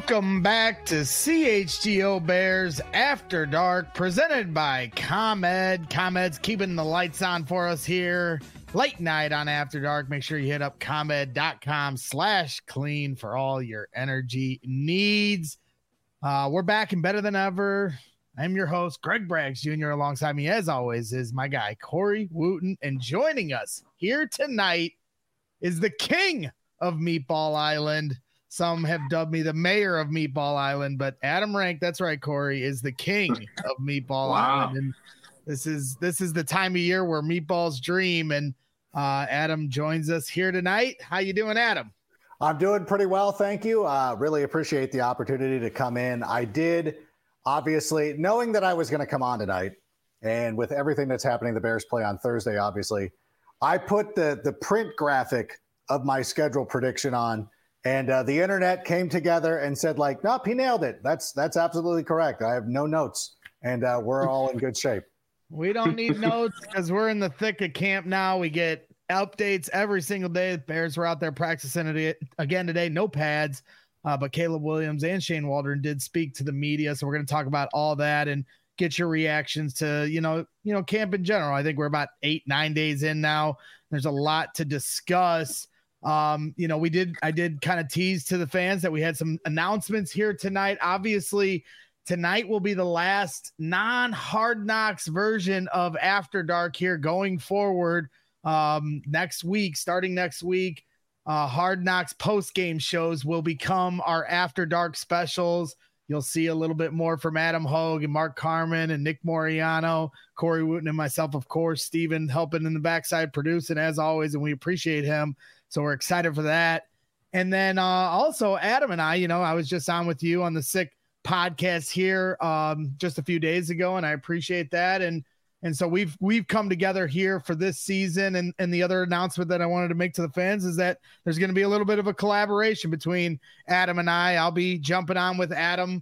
Welcome back to CHGO Bears After Dark, presented by ComEd. ComEd's keeping the lights on for us here. Late night on After Dark. Make sure you hit up ComEd.com/clean for all your energy needs. We're back and better than ever. I'm your host, Greg Braggs Jr. Alongside me, as always, is my guy, Corey Wooten. And joining us here tonight is the king of Meatball Island. Some have dubbed me the mayor of Meatball Island, but Adam Rank, that's right, Corey, is the king of Meatball Island. And this is the time of year where meatballs dream. And Adam joins us here tonight. How you doing, Adam? I'm doing pretty well, thank you. Really appreciate the opportunity to come in. I did, obviously, knowing that I was going to come on tonight, and with everything that's happening, the Bears play on Thursday, obviously, I put the print graphic of my schedule prediction on. And the internet came together and said, like, nope, he nailed it. That's absolutely correct. I have no notes, and we're all in good shape. We don't need notes because we're in the thick of camp now. We get updates every single day. The Bears were out there practicing it again today. No pads, but Caleb Williams and Shane Waldron did speak to the media. So we're going to talk about all that and get your reactions to, camp in general. I think we're about 8-9 days in now. There's a lot to discuss. I did kind of tease to the fans that we had some announcements here tonight. Obviously, tonight will be the last non-Hard Knocks version of After Dark here going forward. Starting next week, Hard Knocks post-game shows will become our After Dark specials. You'll see a little bit more from Adam Hogue and Mark Carman and Nick Moriano, Corey Wooten, and myself, of course, Steven helping in the backside producing as always, and we appreciate him. So we're excited for that. And then also Adam and I was just on with you on the Sick podcast here just a few days ago, and I appreciate that. And so we've come together here for this season. And the other announcement that I wanted to make to the fans is that there's going to be a little bit of a collaboration between Adam and I. I'll be jumping on with Adam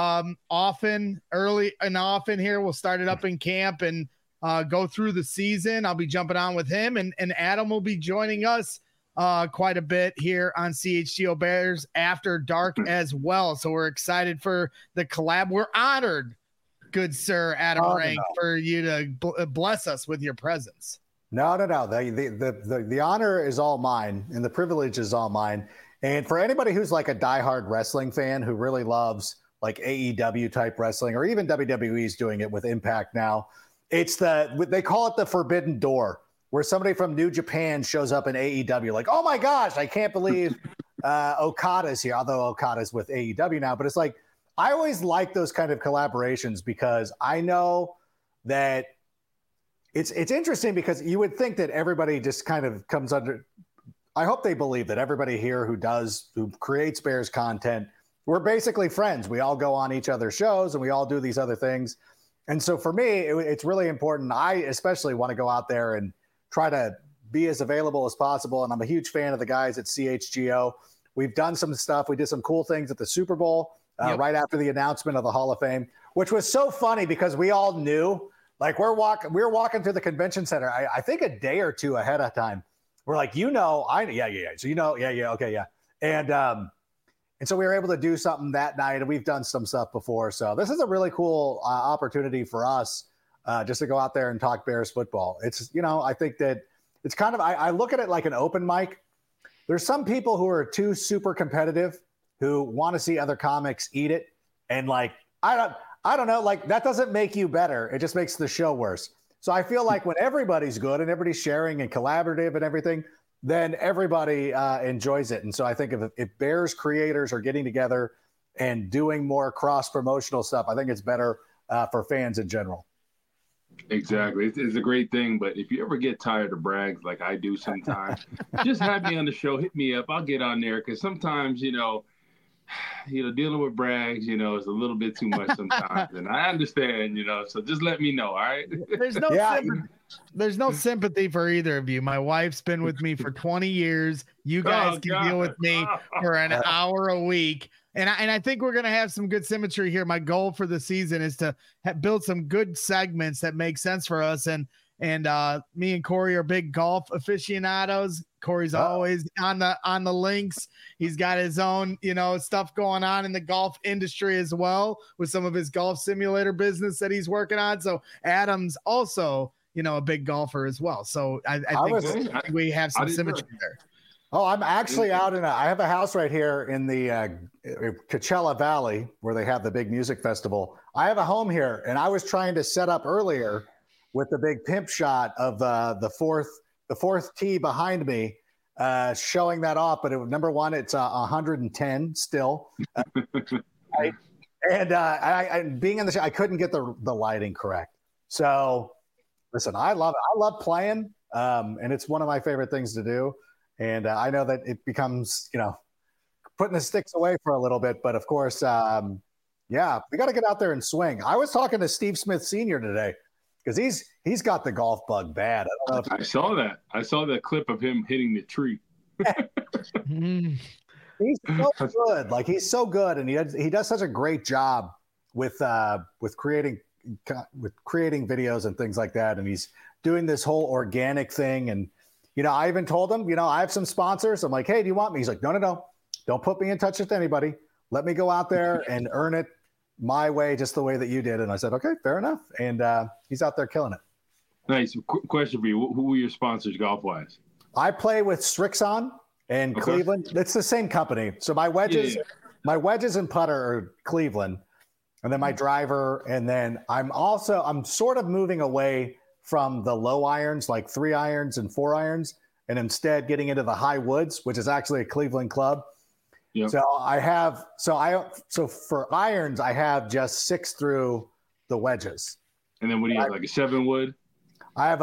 early and often here. We'll start it up in camp and go through the season. I'll be jumping on with him, and Adam will be joining us quite a bit here on CHGO Bears After Dark as well. So we're excited for the collab. We're honored, good sir Adam Rank, for you to bless us with your presence. No. The honor is all mine, and the privilege is all mine. And for anybody who's like a diehard wrestling fan who really loves like AEW type wrestling, or even WWE's doing it with Impact now, they call it the Forbidden Door, where somebody from New Japan shows up in AEW, like, oh my gosh, I can't believe Okada's here, although Okada's with AEW now. But it's like, I always like those kind of collaborations because I know that it's interesting, because you would think that everybody just kind of comes under, I hope they believe that everybody here who creates Bears content, we're basically friends. We all go on each other's shows and we all do these other things. And so for me, it's really important. I especially want to go out there and try to be as available as possible. And I'm a huge fan of the guys at CHGO. We've done some stuff. We did some cool things at the Super Bowl right after the announcement of the Hall of Fame, which was so funny because we all knew, like, we were walking through the convention center, I think a day or two ahead of time. We're like, yeah. So, okay, yeah. And so we were able to do something that night, and we've done some stuff before. So this is a really cool opportunity for us just to go out there and talk Bears football. It's, I think that it's kind of, I look at it like an open mic. There's some people who are too super competitive who want to see other comics eat it. And like, I don't know, like that doesn't make you better. It just makes the show worse. So I feel like when everybody's good and everybody's sharing and collaborative and everything, then everybody enjoys it. And so I think if Bears creators are getting together and doing more cross-promotional stuff, I think it's better for fans in general. Exactly. It's a great thing. But if you ever get tired of Braggs like I do sometimes, just have me on the show. Hit me up. I'll get on there, because sometimes, dealing with Braggs, is a little bit too much sometimes. And I understand, so just let me know. All right. There's no sympathy for either of you. My wife's been with me for 20 years. You guys can deal with me for an hour a week. And I think we're going to have some good symmetry here. My goal for the season is to build some good segments that make sense for us. And me and Corey are big golf aficionados. Corey's always on the links. He's got his own, stuff going on in the golf industry as well with some of his golf simulator business that he's working on. So Adam's also, a big golfer as well. So I think we have some symmetry there. Oh, I'm actually out I have a house right here in the Coachella Valley where they have the big music festival. I have a home here, and I was trying to set up earlier with the big pimp shot of the fourth tee behind me, showing that off. But number one, it's 110 still. And being in the show, I couldn't get the lighting correct. So listen, I love it. I love playing, and it's one of my favorite things to do. And I know that it becomes, putting the sticks away for a little bit. But of course, we got to get out there and swing. I was talking to Steve Smith Sr. today because he's got the golf bug bad. I don't know I saw that. I saw that clip of him hitting the tree. He's so good. Like, he's so good, and he does such a great job with creating videos and things like that. And he's doing this whole organic thing. And I even told him, I have some sponsors. I'm like, hey, do you want me? He's like, no. Don't put me in touch with anybody. Let me go out there and earn it my way, just the way that you did. And I said, okay, fair enough. And he's out there killing it. Nice. Question for you. Who are your sponsors golf-wise? I play with Strixon in Cleveland. It's the same company. So my wedges and putter are Cleveland. And then my driver. And then I'm sort of moving away from the low irons, like 3 irons and 4 irons, and instead getting into the high woods, which is actually a Cleveland club. Yep. So for irons, I have just 6 through the wedges. And then what do you have, like a 7 wood? I have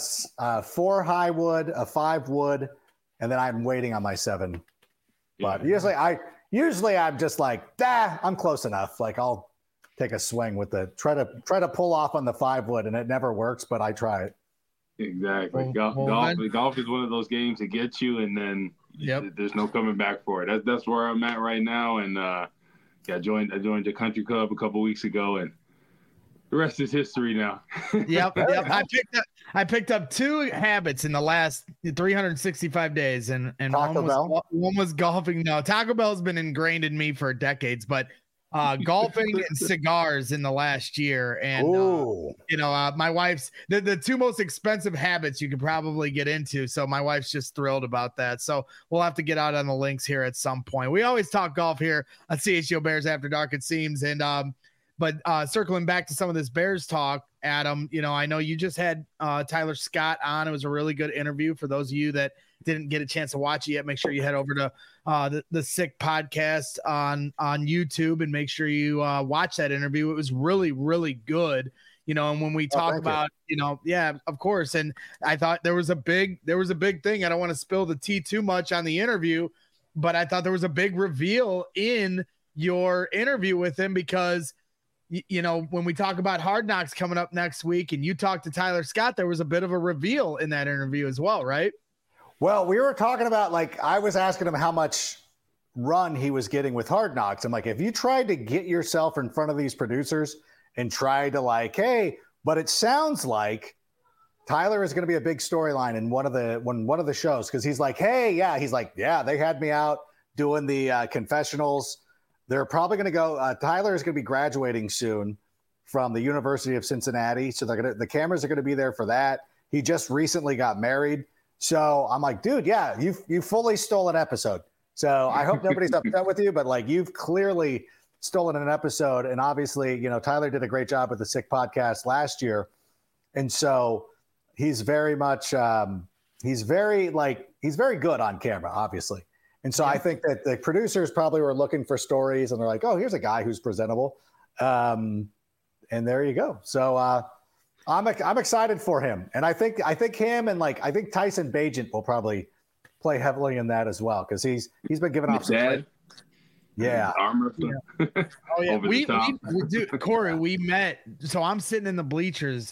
a 4 high wood, a 5 wood, and then I'm waiting on my 7. Yeah. But usually I'm just like, I'm close enough. Like, I'll take a swing with try to pull off on the 5 wood, and it never works, but I try it. Exactly. Golf is one of those games that gets you, and then there's no coming back for it. That's where I'm at right now. And I joined the country club a couple weeks ago, and the rest is history now. Yep. I picked up 2 habits in the last 365 days, and one was golfing. No, Taco Bell's been ingrained in me for decades, but golfing and cigars in the last year. And my wife's the 2 most expensive habits you could probably get into, so my wife's just thrilled about that. So we'll have to get out on the links here at some point. We always talk golf here on CHGO Bears After Dark, it seems. And but circling back to some of this Bears talk, Adam, I know you just had Tyler Scott on. It was a really good interview. For those of you that didn't get a chance to watch it yet, make sure you head over to the Sick Podcast on YouTube and make sure you watch that interview. It was really, really good. And when we talk about, of course. And I thought there was a big thing. I don't want to spill the tea too much on the interview, but I thought there was a big reveal in your interview with him because, when we talk about Hard Knocks coming up next week and you talk to Tyler Scott, there was a bit of a reveal in that interview as well, right? Well, we were talking about, I was asking him how much run he was getting with Hard Knocks. I'm like, if you tried to get yourself in front of these producers and tried to hey, but it sounds like Tyler is going to be a big storyline in one of the shows. Cause he's like, hey, they had me out doing the confessionals. They're probably going to go, Tyler is going to be graduating soon from the University of Cincinnati. So the cameras are going to be there for that. He just recently got married. So I'm like, dude, you fully stole an episode. So I hope nobody's upset with you, but you've clearly stolen an episode. And obviously, Tyler did a great job with the Sick Podcast last year. And so he's very much, he's very good on camera, obviously. And so I think that the producers probably were looking for stories and they're like, oh, here's a guy who's presentable. And there you go. So I'm excited for him. And I think him and I think Tyson Bagent will probably play heavily in that as well. Cause he's been giving off some armor. Oh yeah. We Corey, we met. So I'm sitting in the bleachers,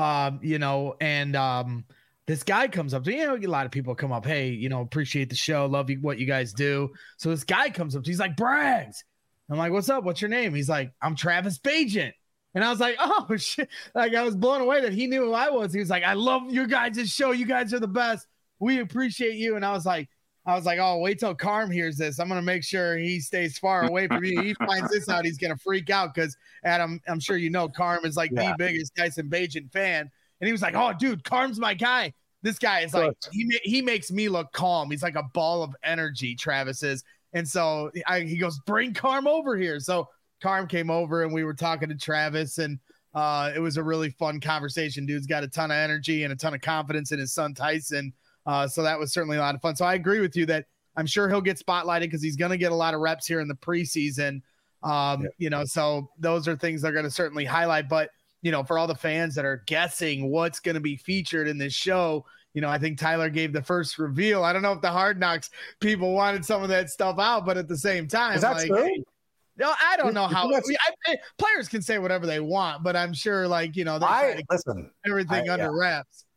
and this guy comes up to a lot of people come up. Hey, appreciate the show. Love you, what you guys do. So this guy comes up. He's like, Braggs. I'm like, what's up? What's your name? He's like, I'm Travis Bagent. And I was like, oh shit. I was blown away that he knew who I was. He was like, I love your guys' show. You guys are the best. we appreciate you. And I was like, oh, wait till Carm hears this. I'm going to make sure he stays far away from you. He finds this out, he's going to freak out because, Adam, I'm sure you know Carm is like the biggest Tyson Bagent fan. And he was like, oh, dude, Carm's my guy. This guy is like, he makes me look calm. He's like a ball of energy, Travis is. And so he goes, bring Carm over here. So Carm came over and we were talking to Travis, and it was a really fun conversation. Dude's got a ton of energy and a ton of confidence in his son, Tyson. So that was certainly a lot of fun. So I agree with you that I'm sure he'll get spotlighted because he's going to get a lot of reps here in the preseason. You know, so those are things they're going to certainly highlight. But, you know, for all the fans that are guessing what's going to be featured in this show, you know, I think Tyler gave the first reveal. I don't know if the Hard Knocks people wanted some of that stuff out, but at the same time, is that like, true? No, I don't know how players can say whatever they want, but I'm sure, like, you know, they try to keep everything under wraps.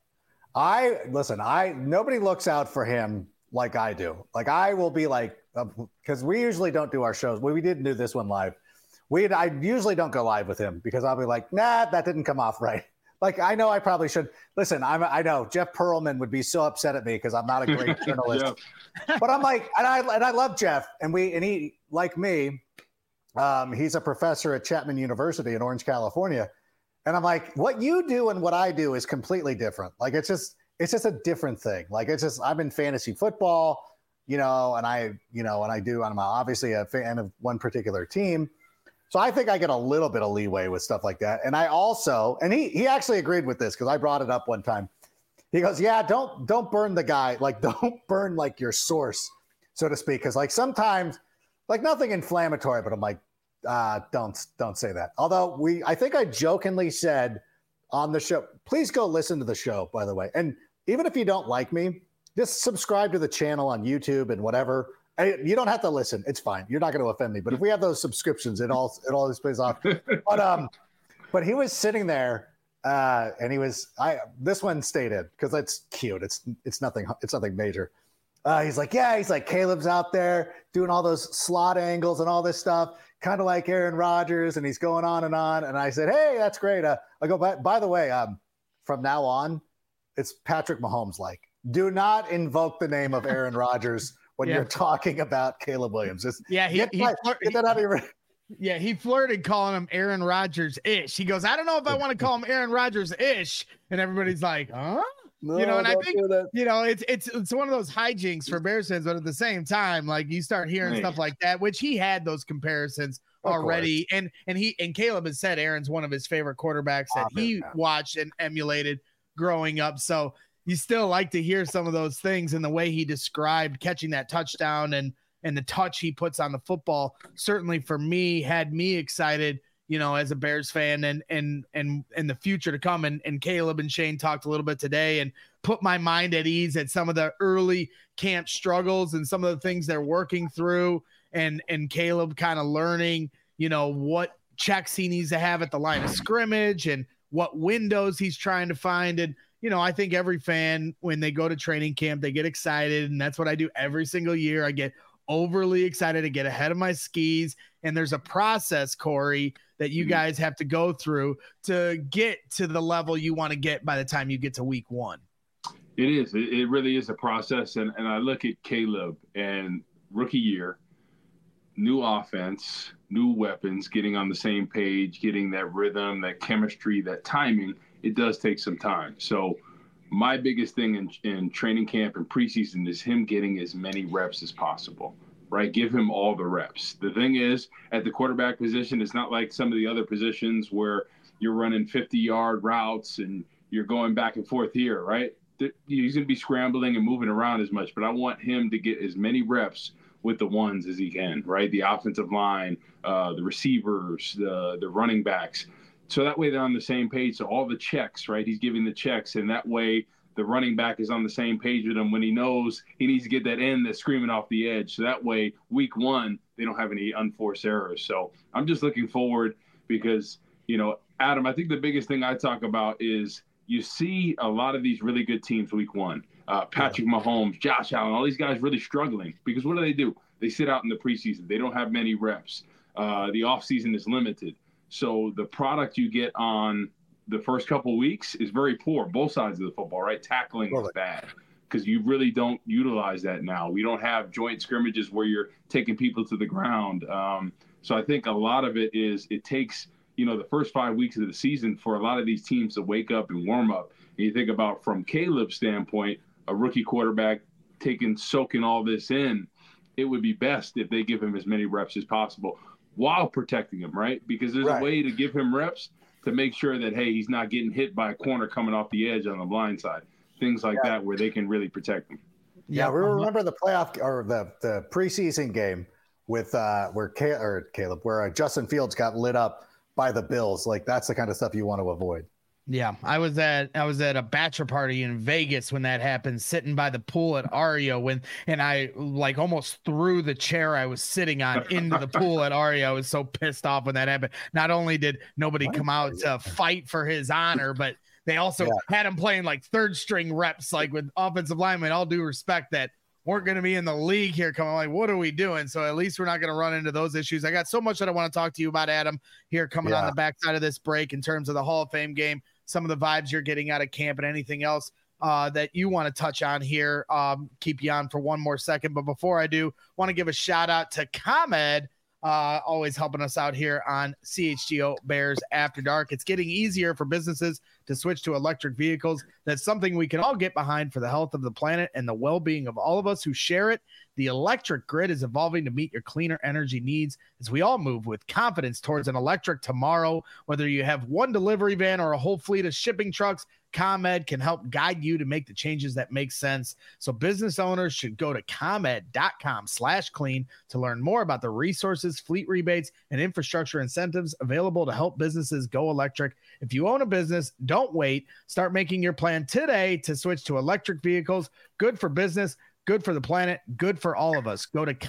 Nobody looks out for him like I do. Like, I will be like, because we usually don't do our shows. We didn't do this one live. I usually don't go live with him because I'll be like, nah, that didn't come off right. Like, I know I probably should. Listen, I know Jeff Pearlman would be so upset at me because I'm not a great journalist. But I'm like, and I love Jeff, and he, like me, he's a professor at Chapman University in Orange, California. And I'm like, what you do and what I do is completely different. Like, it's just a different thing. Like, I'm in fantasy football, you know, and I'm obviously a fan of one particular team. So I think I get a little bit of leeway with stuff like that. And I also, and he actually agreed with this because I brought it up one time. He goes, yeah, don't burn the guy. Like, don't burn like your source, so to speak. Cause like sometimes, like, nothing inflammatory, but I'm like, don't say that. Although I think I jokingly said on the show, please go listen to the show, by the way. And even if you don't like me, just subscribe to the channel on YouTube and whatever. You don't have to listen. It's fine. You're not going to offend me. But if we have those subscriptions, it all pays off. But he was sitting there, and this one stayed in because it's cute. It's nothing major. He's like, Caleb's out there doing all those slot angles and all this stuff, kind of like Aaron Rodgers, and he's going on. And I said, hey, that's great. I go, by the way, from now on, it's Patrick Mahomes. Like, do not invoke the name of Aaron Rodgers when you're talking about Caleb Williams. Get that out of your. Yeah, he flirted calling him Aaron Rodgers-ish. He goes, I don't know if I want to call him Aaron Rodgers-ish. And everybody's like, huh? No, you know, and I think, you know, it's one of those hijinks for Bears fans, but at the same time, like, you start hearing stuff like that, which he had those comparisons already. And Caleb has said Aaron's one of his favorite quarterbacks that he watched and emulated growing up. So you still like to hear some of those things, and the way he described catching that touchdown and the touch he puts on the football, certainly for me, had me excited, you know, as a Bears fan and the future to come. And Caleb and Shane talked a little bit today and put my mind at ease at some of the early camp struggles and some of the things they're working through, and Caleb kind of learning, you know, what checks he needs to have at the line of scrimmage and what windows he's trying to find. And, you know, I think every fan, when they go to training camp, they get excited, and that's what I do every single year. I get overly excited to get ahead of my skis, and there's a process, Corey, that you guys have to go through to get to the level you want to get by the time you get to week one. It is. It really is a process, and I look at Caleb and rookie year, new offense, new weapons, getting on the same page, getting that rhythm, that chemistry, that timing. It does take some time. So my biggest thing in training camp and preseason is him getting as many reps as possible, right? Give him all the reps. The thing is, at the quarterback position, it's not like some of the other positions where you're running 50-yard routes and you're going back and forth here, right? He's going to be scrambling and moving around as much, but I want him to get as many reps with the ones as he can, right? The offensive line, the receivers, the running backs. So that way they're on the same page. So all the checks, right? He's giving the checks, and that way the running back is on the same page with him when he knows he needs to get that end that's screaming off the edge. So that way, week one, they don't have any unforced errors. So I'm just looking forward because, you know, Adam, I think the biggest thing I talk about is you see a lot of these really good teams week one. Patrick Mahomes, Josh Allen, all these guys really struggling because what do? They sit out in the preseason. They don't have many reps. The offseason is limited. So the product you get on the first couple of weeks is very poor, both sides of the football, right? Tackling is bad. because you really don't utilize that now. We don't have joint scrimmages where you're taking people to the ground. So I think a lot of it takes, the first 5 weeks of the season for a lot of these teams to wake up and warm up. And you think about, from Caleb's standpoint, a rookie quarterback soaking all this in, it would be best if they give him as many reps as possible while protecting him, right? Because there's a way to give him reps to make sure that, hey, he's not getting hit by a corner coming off the edge on the blind side. Things like that where they can really protect him. Yeah, we remember the playoff or the preseason game with where Justin Fields got lit up by the Bills. Like, that's the kind of stuff you want to avoid. Yeah, I was at a bachelor party in Vegas when that happened, sitting by the pool at Ario and I like almost threw the chair I was sitting on into the pool at Ario. I was so pissed off when that happened. Not only did nobody come out to fight for his honor, but they also had him playing like third string reps, like with offensive linemen, all due respect, that weren't going to be in the league here coming. Like, what are we doing? So at least we're not going to run into those issues. I got so much that I want to talk to you about, Adam, here coming on the backside of this break in terms of the Hall of Fame game, some of the vibes you're getting out of camp, and anything else that you want to touch on here. Keep you on for one more second. But before I do, want to give a shout out to ComEd, always helping us out here on CHGO Bears After Dark. It's getting easier for businesses to switch to electric vehicles. That's something we can all get behind for the health of the planet and the well-being of all of us who share it. The electric grid is evolving to meet your cleaner energy needs as we all move with confidence towards an electric tomorrow. Whether you have one delivery van or a whole fleet of shipping trucks, ComEd can help guide you to make the changes that make sense. So business owners should go to comed.com/clean to learn more about the resources, fleet rebates, and infrastructure incentives available to help businesses go electric. If you own a business, don't wait. Start making your plan today to switch to electric vehicles. Good for business, good for the planet, good for all of us. Go to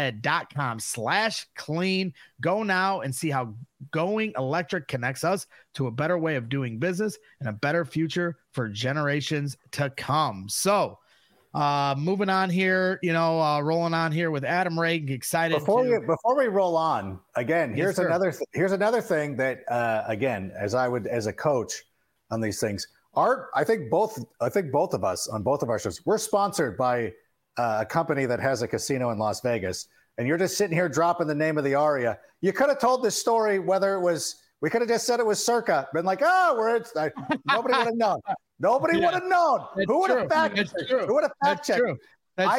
comed.com/clean. Go now and see how going electric connects us to a better way of doing business and a better future for generations to come. So moving on here, rolling on here with Adam Reagan. Excited. Before we roll on, again, here's another thing that, again, as a coach on these things, I think both of us on both of our shows, we're sponsored by a company that has a casino in Las Vegas, and you're just sitting here dropping the name of the Aria. You could have told this story, whether it was, we could have just said it was Circa, been like, nobody would have known. Nobody would have known. Who would have fact checked? Who would have fact checked? I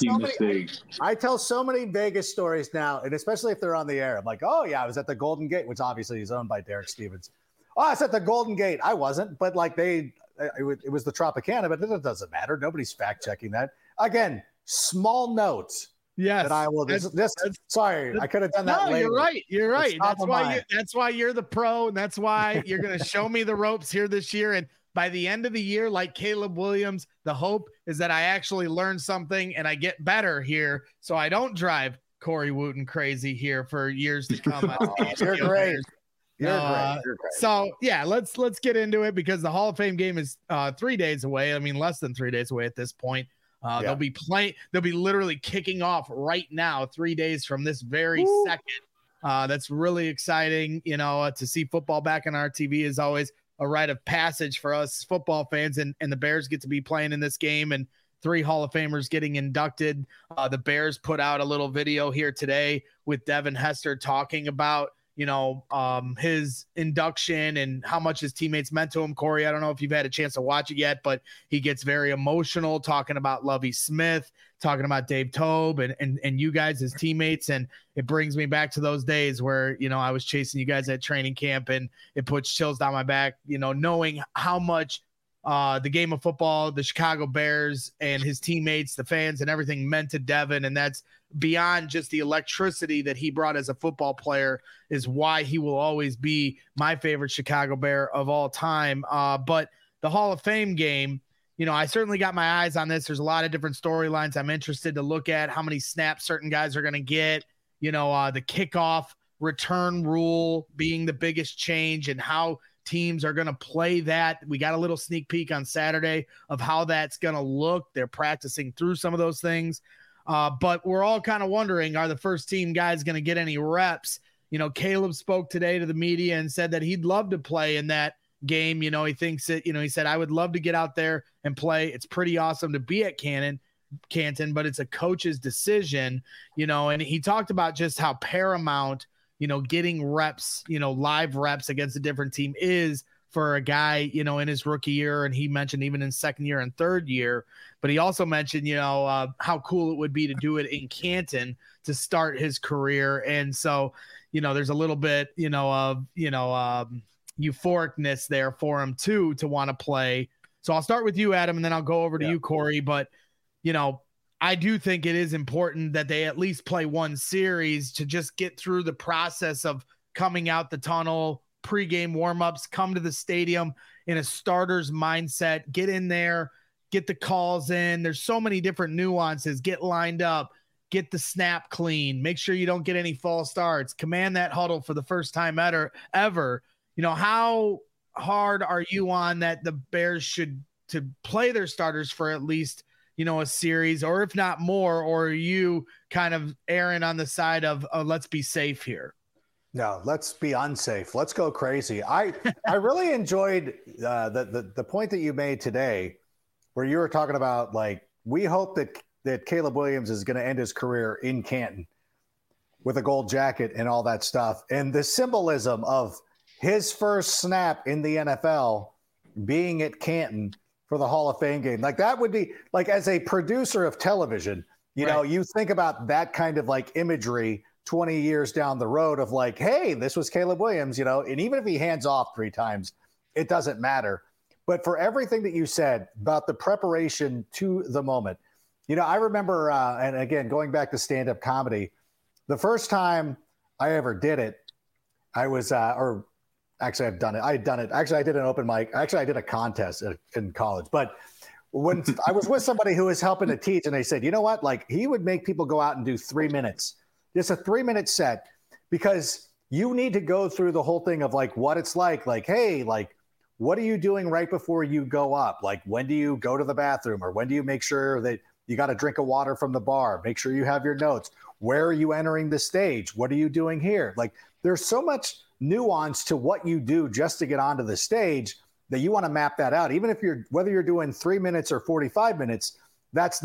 tell so many Vegas stories now, and especially if they're on the air. I'm like, oh yeah, I was at the Golden Gate, which obviously is owned by Derek Stevens. Oh, I was at the Golden Gate. I wasn't, but like it was the Tropicana, but it doesn't matter. Nobody's fact checking that. Again, small notes. Yes. That I will sorry, I could have done that later. You're right. That's why you're the pro, and that's why you're going to show me the ropes here this year. And by the end of the year, like Caleb Williams, the hope is that I actually learn something and I get better here, so I don't drive Corey Wooten crazy here for years to come. You're great. You're great. So yeah, let's get into it, because the Hall of Fame game is 3 days away. I mean, less than 3 days away at this point. They'll be literally kicking off right now, 3 days from this very second. That's really exciting. To see football back on our TV is always a rite of passage for us football fans, and the Bears get to be playing in this game, and 3 Hall of Famers getting inducted. The Bears put out a little video here today with Devin Hester talking about his induction and how much his teammates meant to him. Corey, I don't know if you've had a chance to watch it yet, but he gets very emotional talking about Lovie Smith, talking about Dave Toub and you guys, his teammates. And it brings me back to those days where, I was chasing you guys at training camp, and it puts chills down my back, knowing how much the game of football, the Chicago Bears and his teammates, the fans and everything meant to Devin. And that's beyond just the electricity that he brought as a football player, is why he will always be my favorite Chicago Bear of all time. But the Hall of Fame game, I certainly got my eyes on this. There's a lot of different storylines I'm interested to look at, how many snaps certain guys are going to get, the kickoff return rule being the biggest change, and how teams are going to play that. We got a little sneak peek on Saturday of how that's going to look. They're practicing through some of those things. But we're all kind of wondering, are the first team guys going to get any reps? Caleb spoke today to the media and said that he'd love to play in that, game. He thinks it, he said, I would love to get out there and play. It's pretty awesome to be at Canton, but it's a coach's decision, and he talked about just how paramount, getting reps, live reps against a different team is for a guy, in his rookie year. And he mentioned even in second year and third year, but he also mentioned, how cool it would be to do it in Canton to start his career. And so, there's a little bit, of, euphoricness there for him too, to want to play. So I'll start with you, Adam, and then I'll go over to you, Corey. But, I do think it is important that they at least play one series to just get through the process of coming out the tunnel, pregame warmups, come to the stadium in a starter's mindset, get in there, get the calls in. There's so many different nuances. Get lined up, get the snap clean, make sure you don't get any false starts, command that huddle for the first time ever. How hard are you on that the Bears should to play their starters for at least, a series, or if not more, or are you kind of erring on the side of let's be safe here? No, let's be unsafe. Let's go crazy. I really enjoyed the point that you made today, where you were talking about, like, we hope that Caleb Williams is going to end his career in Canton with a gold jacket and all that stuff. And the symbolism of his first snap in the NFL being at Canton for the Hall of Fame game. Like, that would be, like, as a producer of television, you think about that kind of like imagery 20 years down the road of like, hey, this was Caleb Williams, and even if he hands off 3 times, it doesn't matter. But for everything that you said about the preparation to the moment, I remember, and again, going back to stand-up comedy, the first time I ever did it, I was, actually, I've done it. I had done it. Actually, I did an open mic. Actually, I did a contest in college. But when I was with somebody who was helping to teach, and they said, you know what? Like, he would make people go out and do 3 minutes, just a 3-minute set, because you need to go through the whole thing of like what it's like, hey, like, what are you doing right before you go up? Like, when do you go to the bathroom, or when do you make sure that you got a drink of water from the bar? Make sure you have your notes. Where are you entering the stage? What are you doing here? Like, there's so much nuance to what you do just to get onto the stage that you want to map that out. Even if whether you're doing 3 minutes or 45 minutes, that's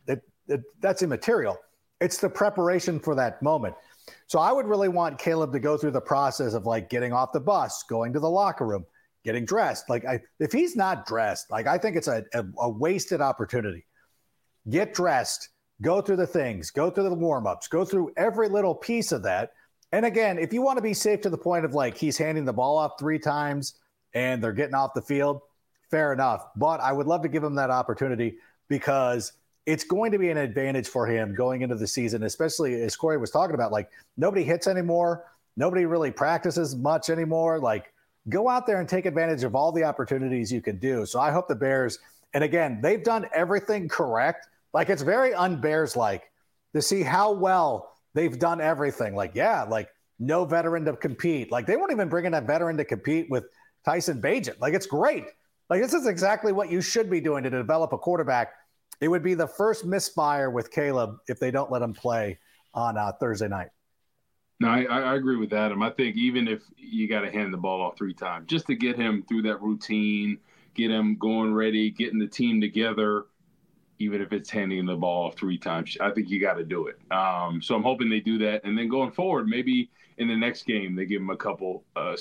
immaterial. It's the preparation for that moment. So I would really want Caleb to go through the process of like getting off the bus, going to the locker room, getting dressed. Like, if he's not dressed, like, I think it's a wasted opportunity. Get dressed, go through the things, go through the warm-ups, go through every little piece of that. And again, if you want to be safe to the point of like he's handing the ball off 3 times and they're getting off the field, fair enough. But I would love to give him that opportunity, because it's going to be an advantage for him going into the season, especially as Corey was talking about, like, nobody hits anymore. Nobody really practices much anymore. Like, go out there and take advantage of all the opportunities you can do. So I hope the Bears, and again, they've done everything correct. Like, it's very un-Bears-like to see how well they've done everything. Like, yeah, like, no veteran to compete. Like, they won't even bring in a veteran to compete with Tyson Bagent. Like, it's great. Like, this is exactly what you should be doing to develop a quarterback. It would be the first misfire with Caleb if they don't let him play on Thursday night. No, I agree with Adam. I think even if you got to hand the ball off 3 times, just to get him through that routine, get him going ready, getting the team together, even if it's handing the ball off 3 times, I think you got to do it. So I'm hoping they do that. And then going forward, maybe in the next game, they give him a couple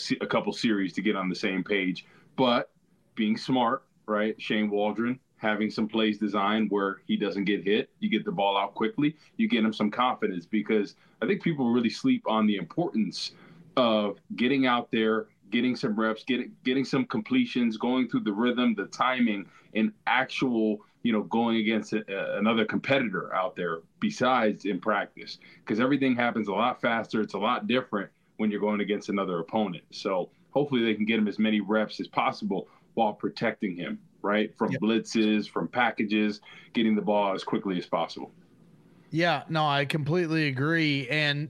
series to get on the same page. But being smart, right? Shane Waldron, having some plays designed where he doesn't get hit, you get the ball out quickly, you get him some confidence, because I think people really sleep on the importance of getting out there, getting some reps, getting some completions, going through the rhythm, the timing, and actual, going against another competitor out there besides in practice, because everything happens a lot faster. It's a lot different when you're going against another opponent. So hopefully they can get him as many reps as possible while protecting him, right? From blitzes, from packages, getting the ball as quickly as possible. Yeah, no, I completely agree. And,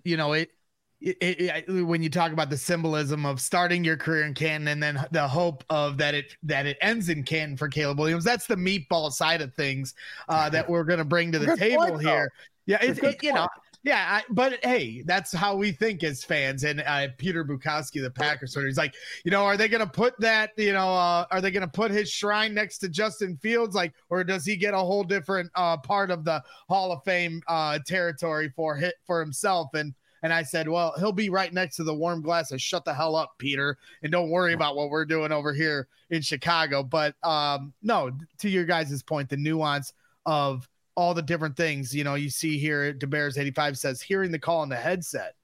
when you talk about the symbolism of starting your career in Canton and then the hope of that it ends in Canton for Caleb Williams, that's the meatball side of things that we're going to bring to the table here. Yeah, Yeah, but hey, that's how we think as fans. And Peter Bukowski, the Packers, he's like, are they going to put that, are they going to put his shrine next to Justin Fields? Like, or does he get a whole different part of the Hall of Fame territory for himself? And I said, well, he'll be right next to the warm glass of shut the hell up, Peter, and don't worry about what we're doing over here in Chicago. But no, to your guys' point, the nuance of all the different things, you see here, DeBears85 says, hearing the call on the headset,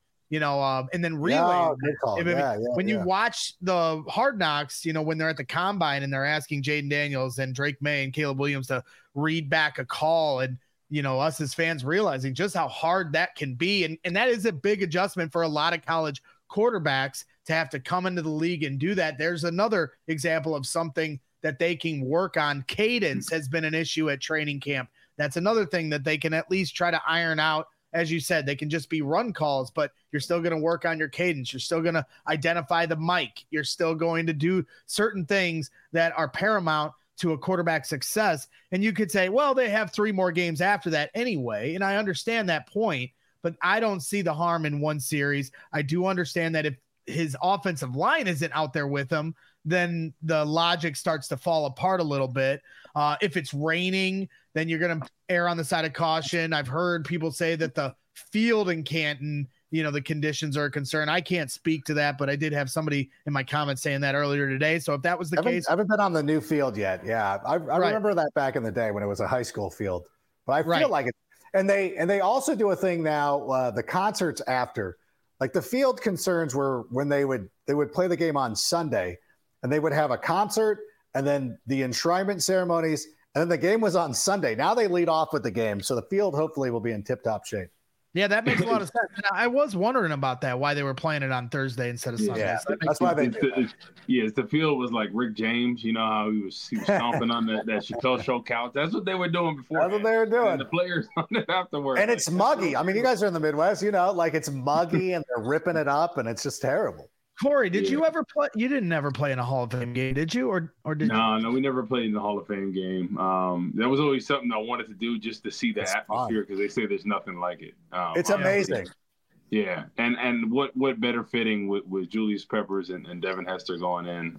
and then relaying. When you watch the Hard Knocks, when they're at the combine and they're asking Jaden Daniels and Drake May and Caleb Williams to read back a call, and, us as fans realizing just how hard that can be. And that is a big adjustment for a lot of college quarterbacks to have to come into the league and do that. There's another example of something that they can work on. Cadence has been an issue at training camp. That's another thing that they can at least try to iron out. As you said, they can just be run calls, but you're still going to work on your cadence. You're still going to identify the mic. You're still going to do certain things that are paramount to a quarterback's success. And you could say, well, they have 3 more games after that anyway. And I understand that point, but I don't see the harm in one series. I do understand that if his offensive line isn't out there with him, then the logic starts to fall apart a little bit. If it's raining, then you're going to err on the side of caution. I've heard people say that the field in Canton, the conditions are a concern. I can't speak to that, but I did have somebody in my comments saying that earlier today. So if that was the case, I haven't been on the new field yet. Yeah. I remember that back in the day when it was a high school field, but I feel like it. And they also do a thing now, the concerts after, like the field concerns were when they would play the game on Sunday and they would have a concert and then the enshrinement ceremonies, and then the game was on Sunday. Now they lead off with the game, so the field hopefully will be in tip-top shape. Yeah, that makes a lot of sense. I was wondering about that, why they were playing it on Thursday instead of Sunday. Yeah, so that's why they do that. Yes, the field was like Rick James. You know how he was stomping on that Chappelle Show couch. That's what they were doing before. That's what they were doing. And the players on it afterwards. And it's muggy. I mean, you guys are in the Midwest, like it's muggy and they're ripping it up, and it's just terrible. Corey, did you ever play? You didn't ever play in a Hall of Fame game, did you? Or did you? No, we never played in the Hall of Fame game. That was always something I wanted to do just to see the atmosphere, because they say there's nothing like it. It's amazing. Yeah, and what better fitting with Julius Peppers and Devin Hester going in,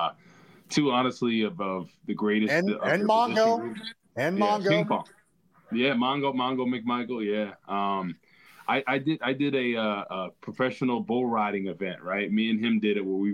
two honestly of the greatest. And Mongo. And Mongo. Ping pong. Yeah, Mongo McMichael. Yeah. I did a professional bull riding event, right? Me and him did it where we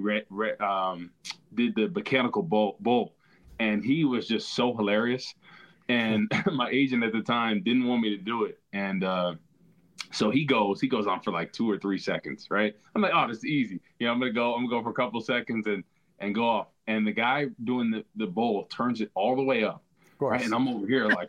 did the mechanical bull, and he was just so hilarious. And my agent at the time didn't want me to do it, and so he goes on for like 2 or 3 seconds, right? I'm like, oh, this is easy. I'm gonna go for a couple seconds and go off. And the guy doing the bull turns it all the way up, right? And I'm over here like.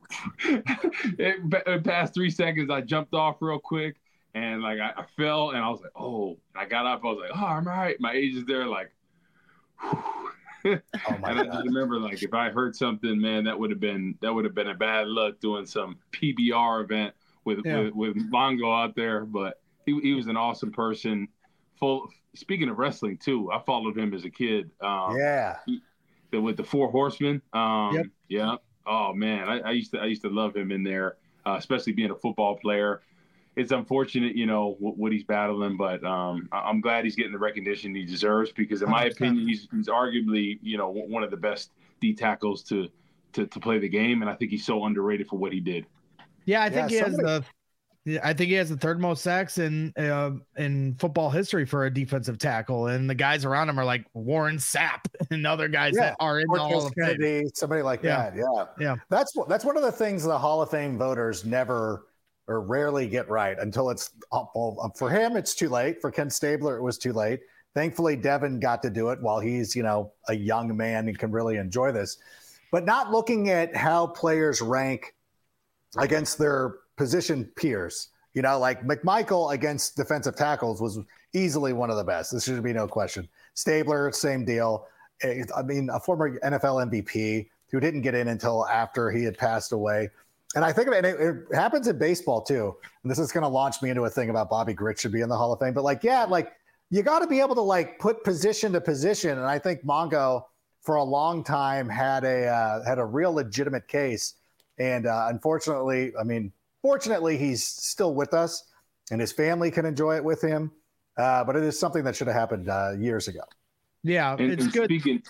It past 3 seconds, I jumped off real quick, and like I fell, and I was like, oh. And I got up, I was like, oh, I'm all right. My agent's there, like, oh my God. I just remember, like, if I heard something, man, that would have been a bad luck doing some PBR event with Mongo out there. But he was an awesome person. Speaking of wrestling too, I followed him as a kid. With the Four Horsemen. Yeah. Oh man, I used to love him in there, especially being a football player. It's unfortunate, what he's battling, but I'm glad he's getting the recognition he deserves, because in my opinion, he's arguably, one of the best D tackles to play the game, and I think he's so underrated for what he did. Yeah, I think he has the third most sacks in football history for a defensive tackle, and the guys around him are like Warren Sapp and other guys that are in the Hall of Fame. Somebody like that. Yeah. That's one of the things the Hall of Fame voters never or rarely get right until it's for him. It's too late. For Ken Stabler, it was too late. Thankfully, Devin got to do it while he's a young man and can really enjoy this. But not looking at how players rank against their position peers, like McMichael against defensive tackles was easily one of the best. This should be no question. Stabler, same deal. I mean, a former NFL MVP who didn't get in until after he had passed away. And I think of it happens in baseball too. And this is going to launch me into a thing about Bobby Gritt should be in the Hall of Fame. But you got to be able to put position to position. And I think Mongo for a long time had a real legitimate case. And unfortunately, I mean, Fortunately, he's still with us, and his family can enjoy it with him. But it is something that should have happened years ago. Yeah, it's good.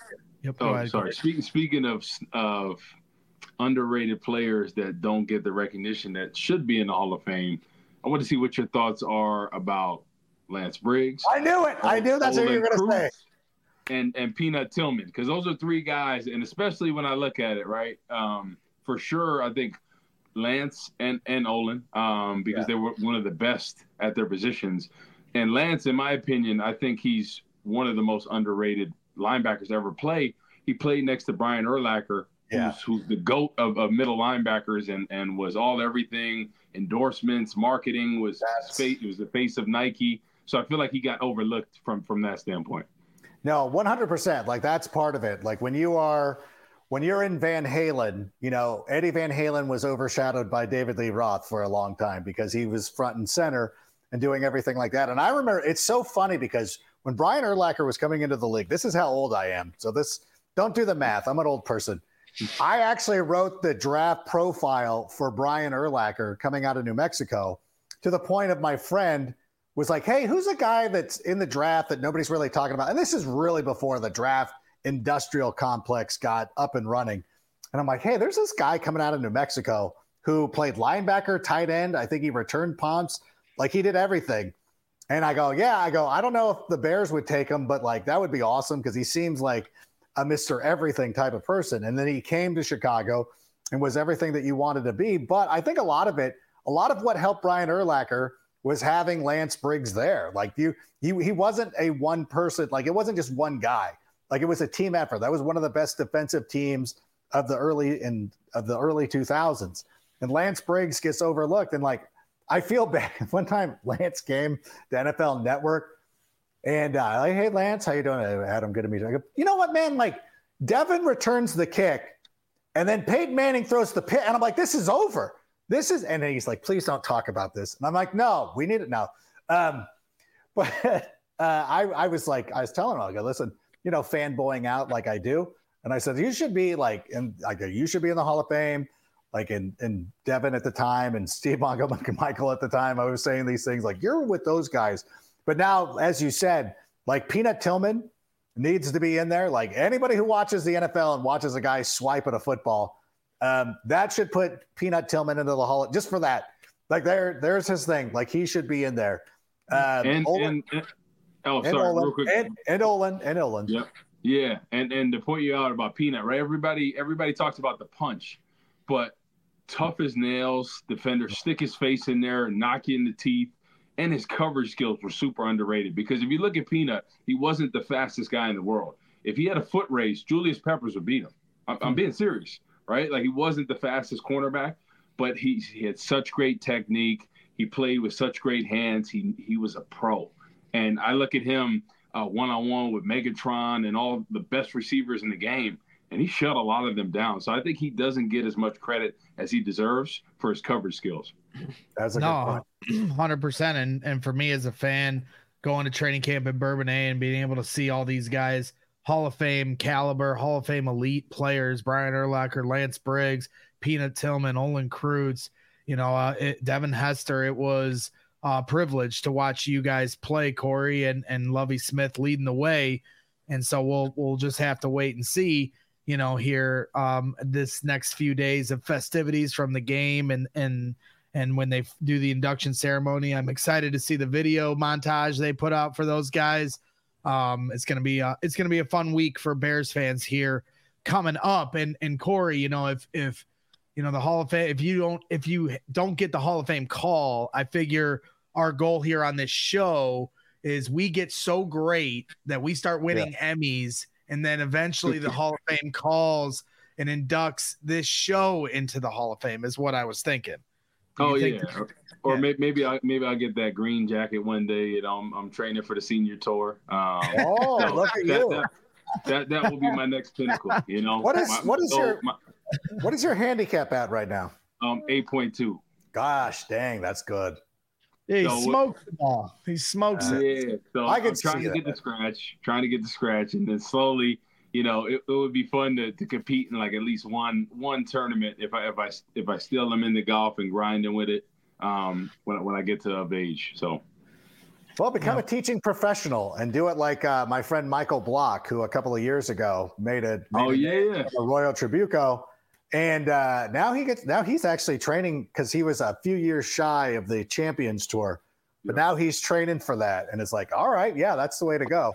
Speaking of underrated players that don't get the recognition that should be in the Hall of Fame, I want to see what your thoughts are about Lance Briggs. I knew it. I knew that's what you were going to say. And Peanut Tillman, because those are three guys, and especially when I look at it, right? For sure, I think Lance and Olin, because they were one of the best at their positions. And Lance, in my opinion, I think he's one of the most underrated linebackers to ever play. He played next to Brian Urlacher, who's the GOAT of middle linebackers and was all everything, endorsements, marketing, was the face of Nike. So I feel like he got overlooked from that standpoint. No, 100%. Like, that's part of it. Like, when you're in Van Halen, Eddie Van Halen was overshadowed by David Lee Roth for a long time because he was front and center and doing everything like that. And I remember, it's so funny because when Brian Urlacher was coming into the league, this is how old I am. So don't do the math. I'm an old person. I actually wrote the draft profile for Brian Urlacher coming out of New Mexico, to the point of my friend was like, hey, who's a guy that's in the draft that nobody's really talking about? And this is really before the draft industrial complex got up and running. And I'm like, hey, there's this guy coming out of New Mexico who played linebacker, tight end. I think he returned punts. Like, he did everything. And I go, I don't know if the Bears would take him, but like, that would be awesome because he seems like a Mr. Everything type of person. And then he came to Chicago and was everything that you wanted to be. But I think a lot of what helped Brian Urlacher was having Lance Briggs there. Like, he wasn't a one person, like, it wasn't just one guy. Like, it was a team effort. That was one of the best defensive teams of the early 2000s. And Lance Briggs gets overlooked. And like, I feel bad. One time Lance came to NFL Network and like, hey, Lance, how you doing? Adam, good to meet you. I go, you know what, man? Like, Devin returns the kick and then Peyton Manning throws the pick. And I'm like, this is over. And then he's like, please don't talk about this. And I'm like, no, we need it now. But I was telling him, I go, listen, fanboying out like I do. And I said, you should be you should be in the Hall of Fame. Like, in Devin at the time and Steve Michael at the time, I was saying these things like, you're with those guys. But now, as you said, like, Peanut Tillman needs to be in there. Like, anybody who watches the NFL and watches a guy swipe at a football, that should put Peanut Tillman into the Hall just for that. Like, there's his thing. Like, he should be in there. Real quick. And Olin. Yep. Yeah. And to point you out about Peanut, right? Everybody talks about the punch, but tough as nails, defender, stick his face in there, knock you in the teeth, and his coverage skills were super underrated. Because if you look at Peanut, he wasn't the fastest guy in the world. If he had a foot race, Julius Peppers would beat him. I'm being serious. Right? Like, he wasn't the fastest cornerback, but he had such great technique. He played with such great hands. He was a pro. And I look at him one-on-one with Megatron and all the best receivers in the game, and he shut a lot of them down. So I think he doesn't get as much credit as he deserves for his coverage skills. That's a good point. 100%. And for me as a fan, going to training camp in Bourbonnais and being able to see all these guys, Hall of Fame caliber, Hall of Fame elite players, Brian Urlacher, Lance Briggs, Peanut Tillman, Olin Kreutz, Devin Hester. It was a privilege to watch you guys play, Corey and Lovie Smith leading the way. And so we'll just have to wait and see, here this next few days of festivities from the game and when they do the induction ceremony. I'm excited to see the video montage they put out for those guys. It's gonna be a fun week for Bears fans here coming up. And Corey, if the Hall of Fame, if you don't get the Hall of Fame call, I figure our goal here on this show is we get so great that we start winning Emmys, and then eventually the Hall of Fame calls and inducts this show into the Hall of Fame is what I was thinking. Or maybe I'll get that green jacket one day. I'm training for the senior tour. Look at you. That will be my next pinnacle. What is your handicap at right now? 8.2. Gosh, dang, that's good. Yeah, he smokes the ball. He smokes it. Yeah, so I'm trying to get the scratch, and then slowly, you know, it would be fun to compete in like at least one tournament if I still am into golf and grinding with it when I get to of age. So. Well, become a teaching professional and do it like my friend Michael Block, who a couple of years ago made a Royal Trabuco, and now he's actually training because he was a few years shy of the Champions Tour, but now he's training for that, and it's like, all right, yeah, that's the way to go.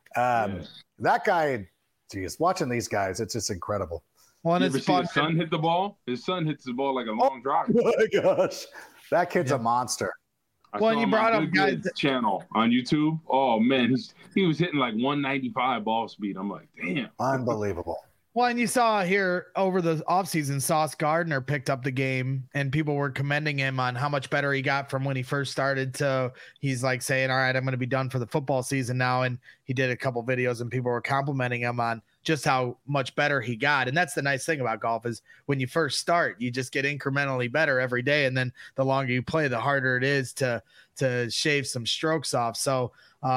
That guy, geez, watching these guys, it's just incredible. Well, and it's fun. His son hit the ball. His son hits the ball like a long drive. Oh my gosh, that kid's a monster. Well, you brought up guys channel on YouTube. Oh man, he was hitting like 195 ball speed. I'm like, damn, unbelievable. Well, and you saw here over the offseason, Sauce Gardner picked up the game, and people were commending him on how much better he got from when he first started to he's like saying, all right, I'm going to be done for the football season now. And he did a couple videos, and people were complimenting him on just how much better he got. And that's the nice thing about golf is when you first start, you just get incrementally better every day. And then the longer you play, the harder it is to shave some strokes off. So,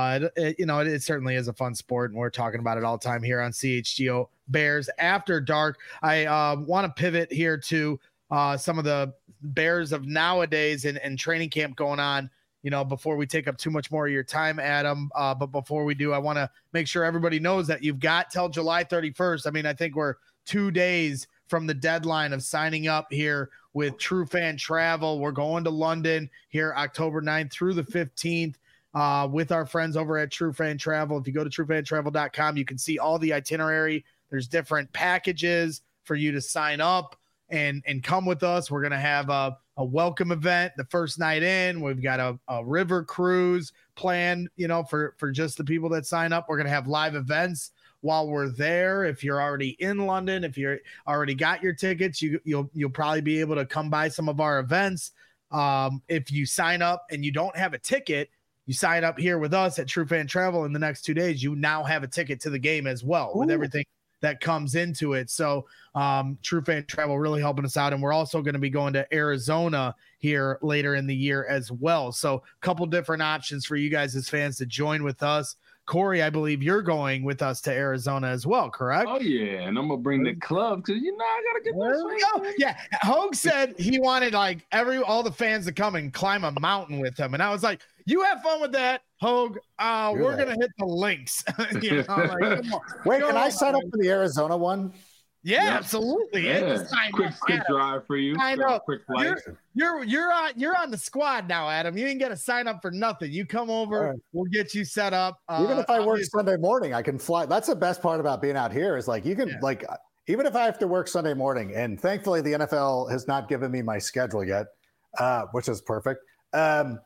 it certainly is a fun sport, and we're talking about it all the time here on CHGO Bears After Dark. I want to pivot here to some of the Bears of nowadays and training camp going on, before we take up too much more of your time, Adam. But before we do, I want to make sure everybody knows that you've got till July 31st. I mean, I think we're 2 days from the deadline of signing up here with True Fan Travel. We're going to London here October 9th through the 15th. With our friends over at True Fan Travel. If you go to truefantravel.com, you can see all the itinerary. There's different packages for you to sign up and come with us. We're going to have a welcome event the first night in. We've got a river cruise planned, for just the people that sign up. We're going to have live events while we're there. If you're already in London, if you're already got your tickets, you'll probably be able to come by some of our events. If you sign up and you don't have a ticket, you sign up here with us at True Fan Travel in the next 2 days, you now have a ticket to the game as well with everything that comes into it. So True Fan Travel really helping us out. And we're also going to be going to Arizona here later in the year as well. So a couple different options for you guys as fans to join with us. Corey, I believe you're going with us to Arizona as well, correct? Oh, yeah. And I'm going to bring the club because, I got to get this. Yeah. Hogue said he wanted all the fans to come and climb a mountain with him. And I was like, you have fun with that, Hogue. We're going to hit the links. Wait, can I sign up for the Arizona one? Yeah, absolutely. Yeah. Quick drive for you. I know. Quick flight. You're on the squad now, Adam. You ain't got to sign up for nothing. You come over, we'll get you set up. Even if I work Sunday morning, I can fly. That's the best part about being out here is you can even if I have to work Sunday morning, and thankfully the NFL has not given me my schedule yet, which is perfect. But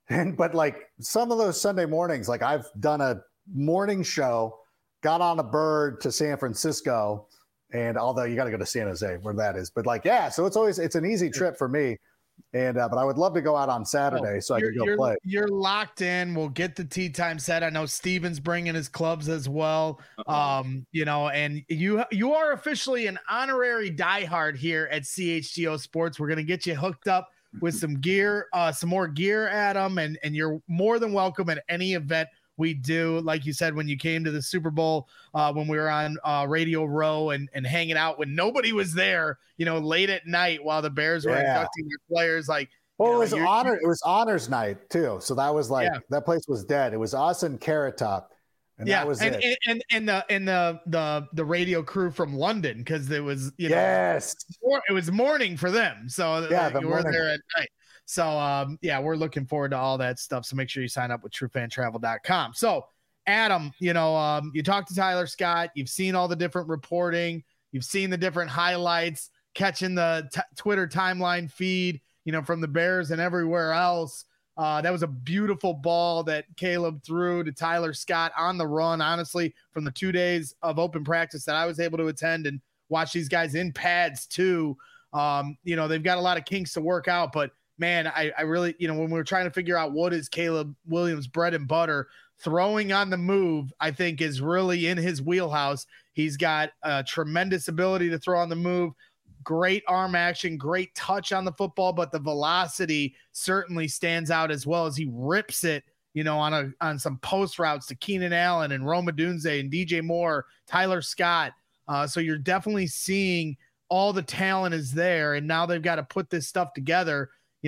some of those Sunday mornings, I've done a morning show, got on a bird to San Francisco. And although you got to go to San Jose where that is, but so it's an easy trip for me. And, but I would love to go out on Saturday so I can go play. You're locked in. We'll get the tee time set. I know Steven's bringing his clubs as well. And you are officially an honorary diehard here at CHGO Sports. We're going to get you hooked up with some gear, some more gear, Adam, and you're more than welcome at any event we do. Like you said, when you came to the Super Bowl, when we were on Radio Row and hanging out when nobody was there, late at night while the Bears were inducting their players. It was honors night too. So that was that place was dead. It was us and Carrot Top. And that was it. And the radio crew from London, because it was it was morning for them. So you were there at night. So, we're looking forward to all that stuff. So make sure you sign up with truefantravel.com. So, Adam, you talked to Tyler Scott. You've seen all the different reporting. You've seen the different highlights, catching the Twitter timeline feed, from the Bears and everywhere else. That was a beautiful ball that Caleb threw to Tyler Scott on the run. Honestly, from the 2 days of open practice that I was able to attend and watch these guys in pads too. They've got a lot of kinks to work out, but man, I really, when we were trying to figure out what is Caleb Williams' bread and butter, throwing on the move, I think is really in his wheelhouse. He's got a tremendous ability to throw on the move, great arm action, great touch on the football, but the velocity certainly stands out as well as he rips it on some post routes to Keenan Allen and Rome Odunze and DJ Moore, Tyler Scott. So you're definitely seeing all the talent is there, and now they've got to put this stuff together.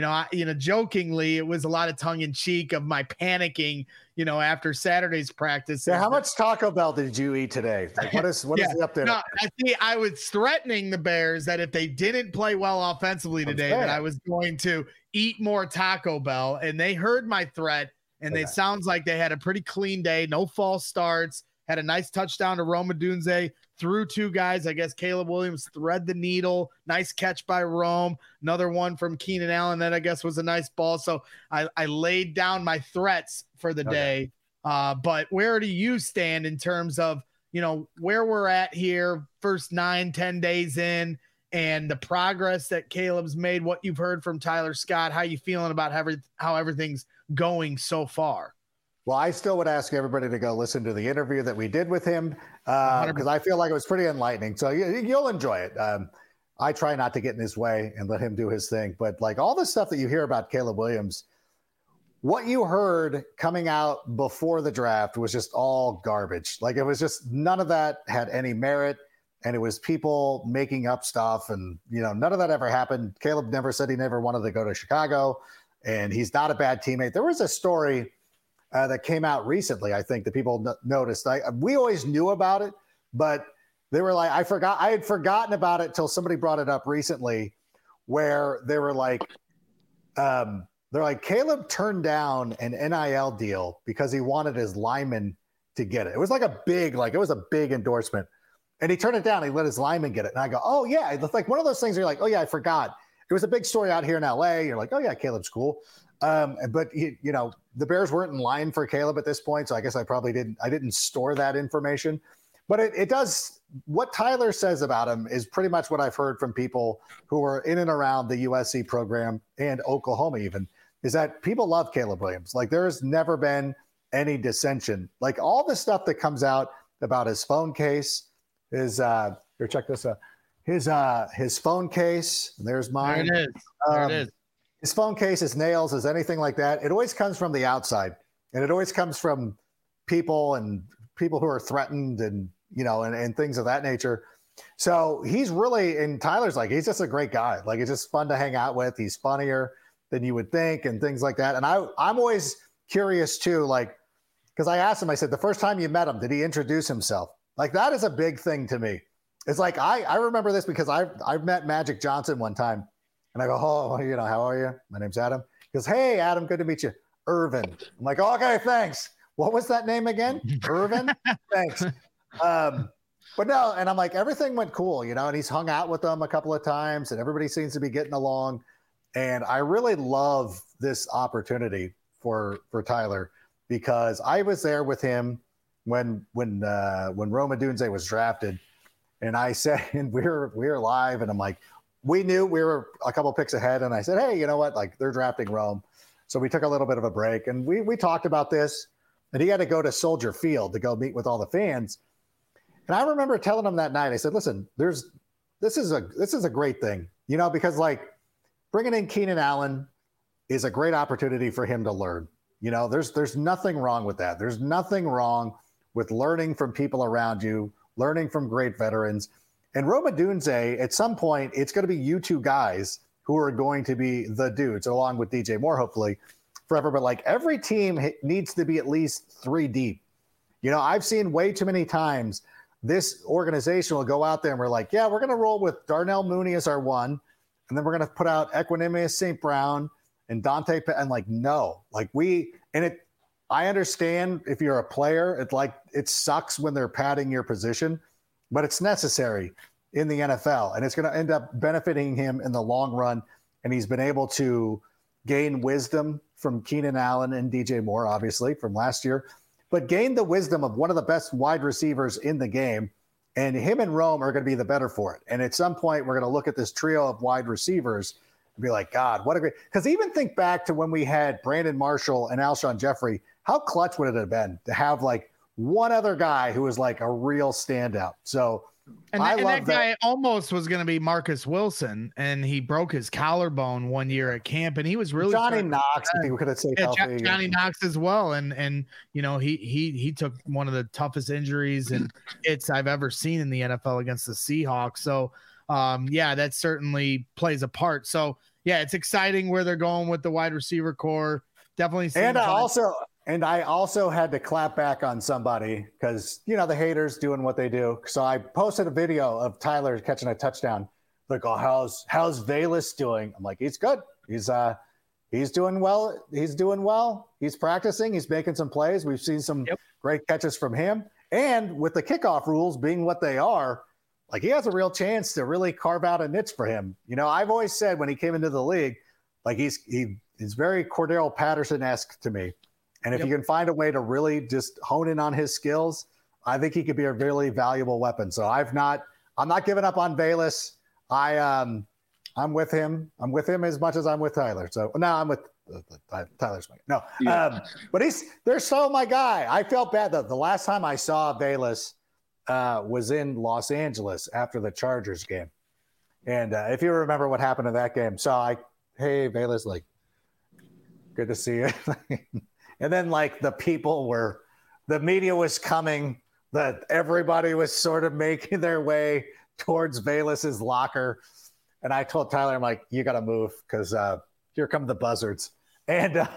Jokingly, it was a lot of tongue in cheek of my panicking, after Saturday's practice. Yeah, how much Taco Bell did you eat today? Like, what is the update? No, I was threatening the Bears that if they didn't play well offensively today, that I was going to eat more Taco Bell, and they heard my threat. And it sounds like they had a pretty clean day, no false starts, had a nice touchdown to Rome Odunze, threw 2 guys. I guess Caleb Williams thread the needle. Nice catch by Rome. Another one from Keenan Allen that I guess was a nice ball. So I laid down my threats for the day. But where do you stand in terms of, where we're at here, first 9-10 days in, and the progress that Caleb's made, what you've heard from Tyler Scott, how you feeling about how everything's going so far? Well, I still would ask everybody to go listen to the interview that we did with him because I feel like it was pretty enlightening. So you'll enjoy it. I try not to get in his way and let him do his thing. But like all the stuff that you hear about Caleb Williams, what you heard coming out before the draft was just all garbage. Like it was just none of that had any merit. And it was people making up stuff. And, none of that ever happened. Caleb never said he never wanted to go to Chicago. And he's not a bad teammate. There was a story that came out recently, I think, that people noticed. We always knew about it, but they were like, I had forgotten about it till somebody brought it up recently, where they were like, they're like, Caleb turned down an NIL deal because he wanted his lineman to get it. It was like it was a big endorsement. And he turned it down. He let his lineman get it. And I go, oh, yeah. It's like one of those things where you're like, oh, yeah, I forgot. It was a big story out here in LA. You're like, oh, yeah, Caleb's cool. But, the Bears weren't in line for Caleb at this point. So I guess I didn't store that information. But it does, what Tyler says about him is pretty much what I've heard from people who are in and around the USC program and Oklahoma even, is that people love Caleb Williams. Like there's never been any dissension. Like all the stuff that comes out about his phone case, here, check this out. His phone case. There's mine. There it is. There it is. His phone case, his nails, his anything like that. It always comes from the outside, and it always comes from people who are threatened, and and things of that nature. So he's really, and Tyler's like, he's just a great guy. Like it's just fun to hang out with. He's funnier than you would think, and things like that. And I'm always curious too, like because I asked him. I said, the first time you met him, did he introduce himself? Like that is a big thing to me. It's like I remember this because I've met Magic Johnson one time, and I go, oh, how are you? My name's Adam. He goes, hey, Adam, good to meet you. Irvin. I'm like, oh, okay, thanks. What was that name again? Irvin? Thanks. But no, and I'm like, everything went cool, and he's hung out with them a couple of times, and everybody seems to be getting along. And I really love this opportunity for Tyler because I was there with him when Rome Odunze was drafted, and I said, and we were live, and I'm like, we knew we were a couple picks ahead, and I said, hey, you know what? Like they're drafting Rome, so we took a little bit of a break, and we talked about this, and he had to go to Soldier Field to go meet with all the fans, and I remember telling him that night, I said, listen, this is a great thing, because like bringing in Keenan Allen is a great opportunity for him to learn. There's nothing wrong with that. There's nothing wrong with learning from people around you, learning from great veterans. And Rome Odunze, at some point, it's going to be you two guys who are going to be the dudes, along with DJ Moore, hopefully, forever. But like every team needs to be at least 3 deep. I've seen way too many times this organization will go out there and we're like, yeah, we're going to roll with Darnell Mooney as our 1. And then we're going to put out Equanimeous St. Brown and Dante. And like, no, like I understand if you're a player, it sucks when they're padding your position, but it's necessary in the NFL, and it's going to end up benefiting him in the long run. And he's been able to gain wisdom from Keenan Allen and DJ Moore, obviously from last year, but gain the wisdom of one of the best wide receivers in the game. And him and Rome are going to be the better for it. And at some point, we're going to look at this trio of wide receivers and be like, God, what a great, because even think back to when we had Brandon Marshall and Alshon Jeffrey, how clutch would it have been to have like one other guy who was like a real standout? So And that guy almost was going to be Marcus Wilson, and he broke his collarbone one year at camp, and he was really Johnny Knox. If he could have stayed healthy. Johnny Knox as well, and you know he took one of the toughest injuries and hits I've ever seen in the NFL against the Seahawks. So yeah, that certainly plays a part. So yeah, it's exciting where they're going with the wide receiver core. Definitely. And I also had to clap back on somebody because, you know, the haters doing what they do. So I posted a video of Tyler catching a touchdown. Like, oh, how's Velus doing? I'm like, he's good. He's doing well. He's doing well. He's practicing. He's making some plays. We've seen some great catches from him. And with the kickoff rules being what they are, like, he has a real chance to really carve out a niche for him. You know, I've always said when he came into the league, like he's very Cordero Patterson-esque to me. And if you can find a way to really just hone in on his skills, I think he could be a really valuable weapon. So I'm not giving up on Velus. I'm with him. I'm with him as much as I'm with Tyler. So no, I'm with Tyler's my no. Yeah. But they're so my guy. I felt bad though. The last time I saw Velus was in Los Angeles after the Chargers game. And if you remember what happened in that game, so hey Velus, like, good to see you. And then, like, the media was coming, that everybody was sort of making their way towards Velus's locker. And I told Tyler, I'm like, you got to move because here come the buzzards. And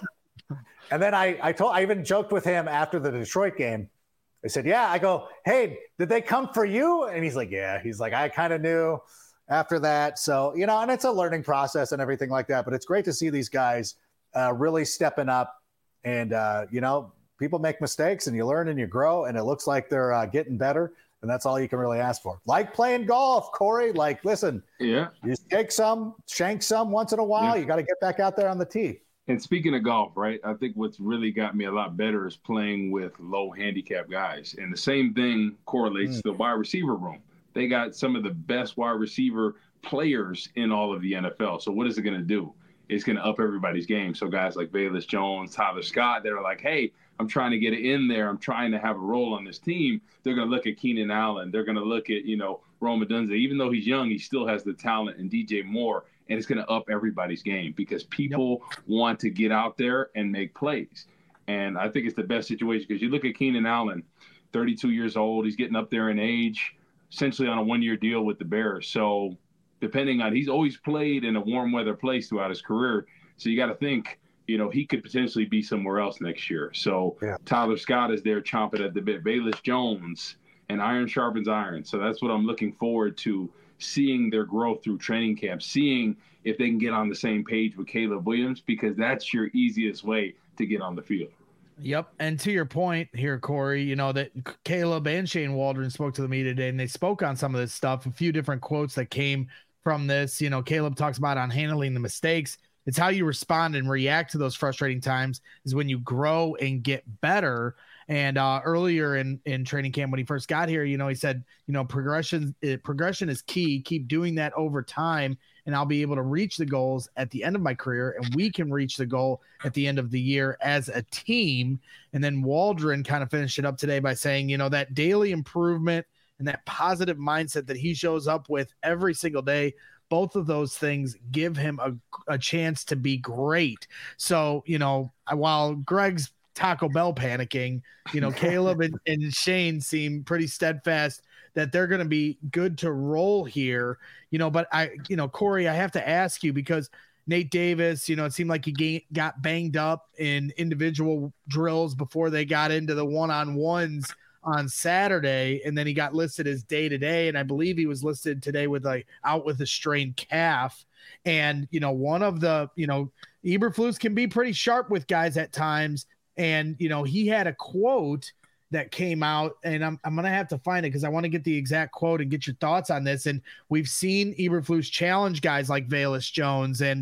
then I even joked with him after the Detroit game. I said, yeah, I go, hey, did they come for you? And he's like, yeah. He's like, I kind of knew after that. So, you know, and it's a learning process and everything like that. But it's great to see these guys really stepping up. And, you know, people make mistakes and you learn and you grow, and it looks like they're getting better. And that's all you can really ask for. Like playing golf, Corey. Like, listen, you shank some once in a while. You got to get back out there on the tee. And speaking of golf, right, I think what's really got me a lot better is playing with low handicap guys. And the same thing correlates to the wide receiver room. They got some of the best wide receiver players in all of the NFL. So what is it going to do? It's going to up everybody's game. So guys like Velus Jones, Tyler Scott, that are like, hey, I'm trying to get it in there. I'm trying to have a role on this team. They're going to look at Keenan Allen. They're going to look at, you know, Rome Odunze. Even though he's young, he still has the talent, and DJ Moore. And it's going to up everybody's game because people want to get out there and make plays. And I think it's the best situation because you look at Keenan Allen, 32 years old. He's getting up there in age, essentially on a one-year deal with the Bears. So depending on, he's always played in a warm weather place throughout his career. So you got to think, you know, he could potentially be somewhere else next year. So Tyler Scott is there chomping at the bit, Velus Jones, and iron sharpens iron. So that's what I'm looking forward to, seeing their growth through training camp, seeing if they can get on the same page with Caleb Williams, because that's your easiest way to get on the field. Yep. And to your point here, Corey, you know, that Caleb and Shane Waldron spoke to the media today, and they spoke on some of this stuff, a few different quotes that came from this. You know, Caleb talks about on handling the mistakes. It's how you respond and react to those frustrating times is when you grow and get better. And earlier in training camp, when he first got here, you know, he said, you know, progression is key. Keep doing that over time, and I'll be able to reach the goals at the end of my career, and we can reach the goal at the end of the year as a team. And then Waldron kind of finished it up today by saying, you know, that daily improvement and that positive mindset that he shows up with every single day, both of those things give him a chance to be great. So, you know, while Greg's Taco Bell panicking, you know, Caleb and Shane seem pretty steadfast that they're going to be good to roll here, you know, but Corey, I have to ask you, because Nate Davis, you know, it seemed like he got banged up in individual drills before they got into the one-on-ones on Saturday, and then he got listed as day-to-day, and I believe he was listed today with out with a strained calf. And, you know, one of the, you know, Eberflus can be pretty sharp with guys at times, and, you know, he had a quote that came out, and I'm going to have to find it because I want to get the exact quote and get your thoughts on this. And we've seen Eberflus challenge guys like Velus Jones and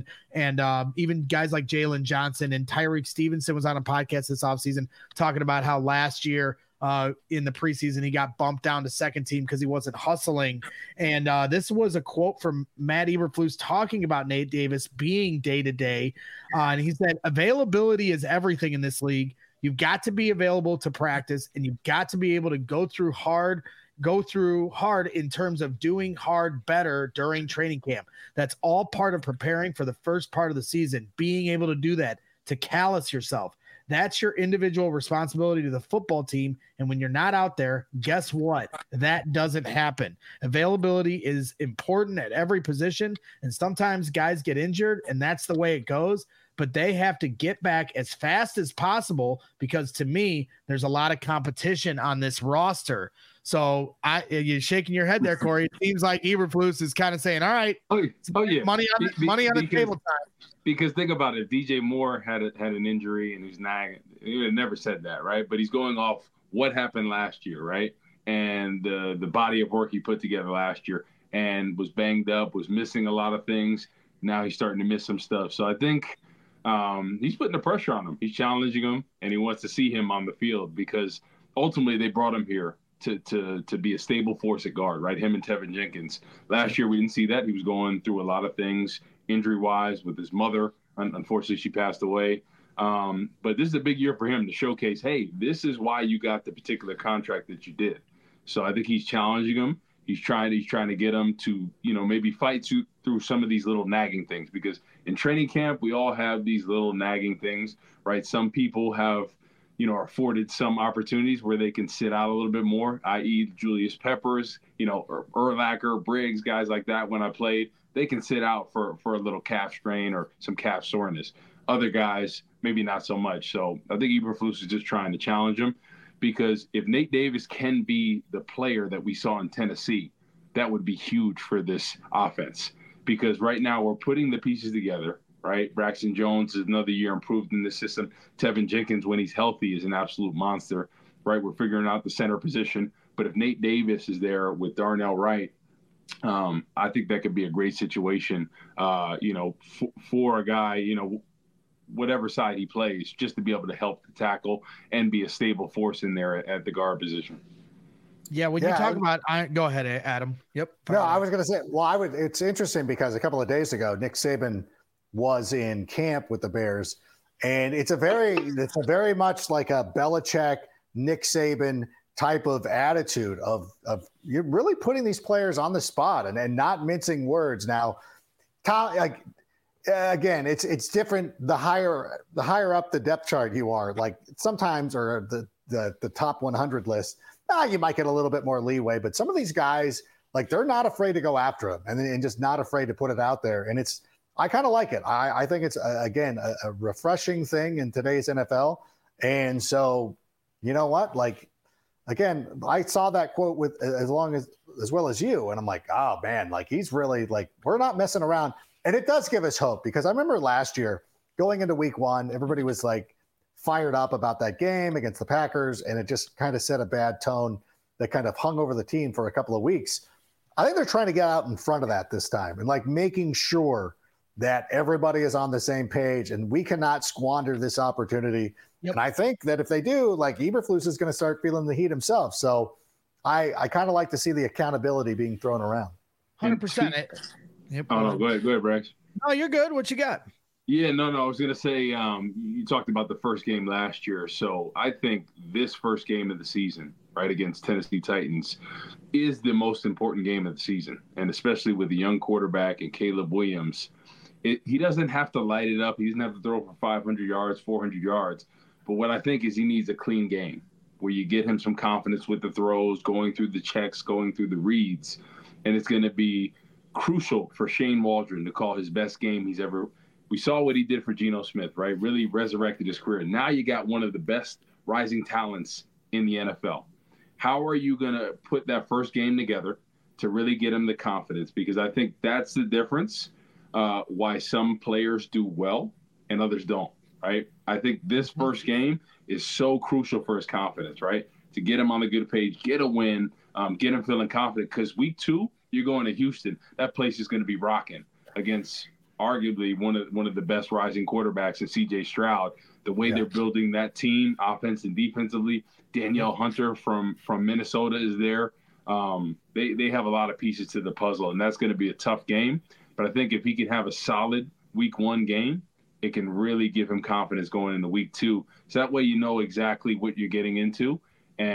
even guys like Jalen Johnson, and Tyreek Stevenson was on a podcast this offseason talking about how last year in the preseason he got bumped down to second team because he wasn't hustling. And this was a quote from Matt Eberflus talking about Nate Davis being day-to-day. And he said, availability is everything in this league. You've got to be available to practice, and you've got to be able to go through hard go through hard in terms of doing hard better during training camp. That's all part of preparing for the first part of the season, being able to do that, to callous yourself. That's your individual responsibility to the football team. And when you're not out there, guess what? That doesn't happen. Availability is important at every position. And sometimes guys get injured, and that's the way it goes. But they have to get back as fast as possible, because to me, there's a lot of competition on this roster. So you're shaking your head there, Corey. It seems like Eberflus is kind of saying, all right, yeah. money on the table time. Because think about it, DJ Moore had an injury and he's nagging. He would have never said that, right? But he's going off what happened last year, right? And the body of work he put together last year, and was banged up, was missing a lot of things. Now he's starting to miss some stuff. So I think he's putting the pressure on him. He's challenging him, and he wants to see him on the field, because ultimately they brought him here to be a stable force at guard, right? Him and Tevin Jenkins. Last year we didn't see that. He was going through a lot of things injury-wise with his mother. Unfortunately, she passed away. But this is a big year for him to showcase, hey, this is why you got the particular contract that you did. So I think he's challenging him. He's trying to get him to, maybe fight through some of these little nagging things, because in training camp, we all have these little nagging things, right? Some people have, are afforded some opportunities where they can sit out a little bit more, i.e. Julius Peppers, or Urlacher, Briggs, guys like that. When I played, they can sit out for a little calf strain or some calf soreness. Other guys, maybe not so much. So I think Eberflus is just trying to challenge him, because if Nate Davis can be the player that we saw in Tennessee, that would be huge for this offense. Because right now we're putting the pieces together, right? Braxton Jones is another year improved in this system. Tevin Jenkins, when he's healthy, is an absolute monster, right? We're figuring out the center position. But if Nate Davis is there with Darnell Wright, I think that could be a great situation, for a guy, whatever side he plays, just to be able to help the tackle and be a stable force in there at the guard position. Yeah, when you talk about – go ahead, Adam. Yep. No, I was going to say, it's interesting because a couple of days ago, Nick Saban was in camp with the Bears, and it's a very much like a Belichick, Nick Saban type of attitude of you're really putting these players on the spot and not mincing words. Now, again, it's different. The higher up the depth chart you are, like sometimes, or the top 100 list, you might get a little bit more leeway. But some of these guys, like, they're not afraid to go after him and just not afraid to put it out there. And I kind of like it. I think it's again a refreshing thing in today's NFL. And so, you know what, like. Again, I saw that quote with as well as you, and I'm like, oh man, like he's really like, we're not messing around. And it does give us hope, because I remember last year going into week 1, everybody was like fired up about that game against the Packers, and it just kind of set a bad tone that kind of hung over the team for a couple of weeks. I think they're trying to get out in front of that this time and like making sure that everybody is on the same page, and we cannot squander this opportunity. Yep. And I think that if they do, like, Eberflus is going to start feeling the heat himself. So I kind of like to see the accountability being thrown around. 100%. Yep. Oh, no, go ahead, Brax. No, you're good. What you got? Yeah, no. I was going to say, you talked about the first game last year. So I think this first game of the season, right, against Tennessee Titans, is the most important game of the season. And especially with the young quarterback and Caleb Williams, he doesn't have to light it up. He doesn't have to throw for 500 yards, 400 yards. But what I think is he needs a clean game where you get him some confidence with the throws, going through the checks, going through the reads. And it's going to be crucial for Shane Waldron to call his best game he's ever – we saw what he did for Geno Smith, right? Really resurrected his career. Now you got one of the best rising talents in the NFL. How are you going to put that first game together to really get him the confidence? Because I think that's the difference why some players do well and others don't. Right. I think this first game is so crucial for his confidence, right? To get him on the good page, get a win, get him feeling confident. Because week 2, you're going to Houston. That place is going to be rocking against arguably one of the best rising quarterbacks in C.J. Stroud. The way they're building that team, offense and defensively. Danielle Hunter from Minnesota is there. They have a lot of pieces to the puzzle, and that's going to be a tough game. But I think if he can have a solid week 1 game, it can really give him confidence going into week 2. So that way you know exactly what you're getting into. And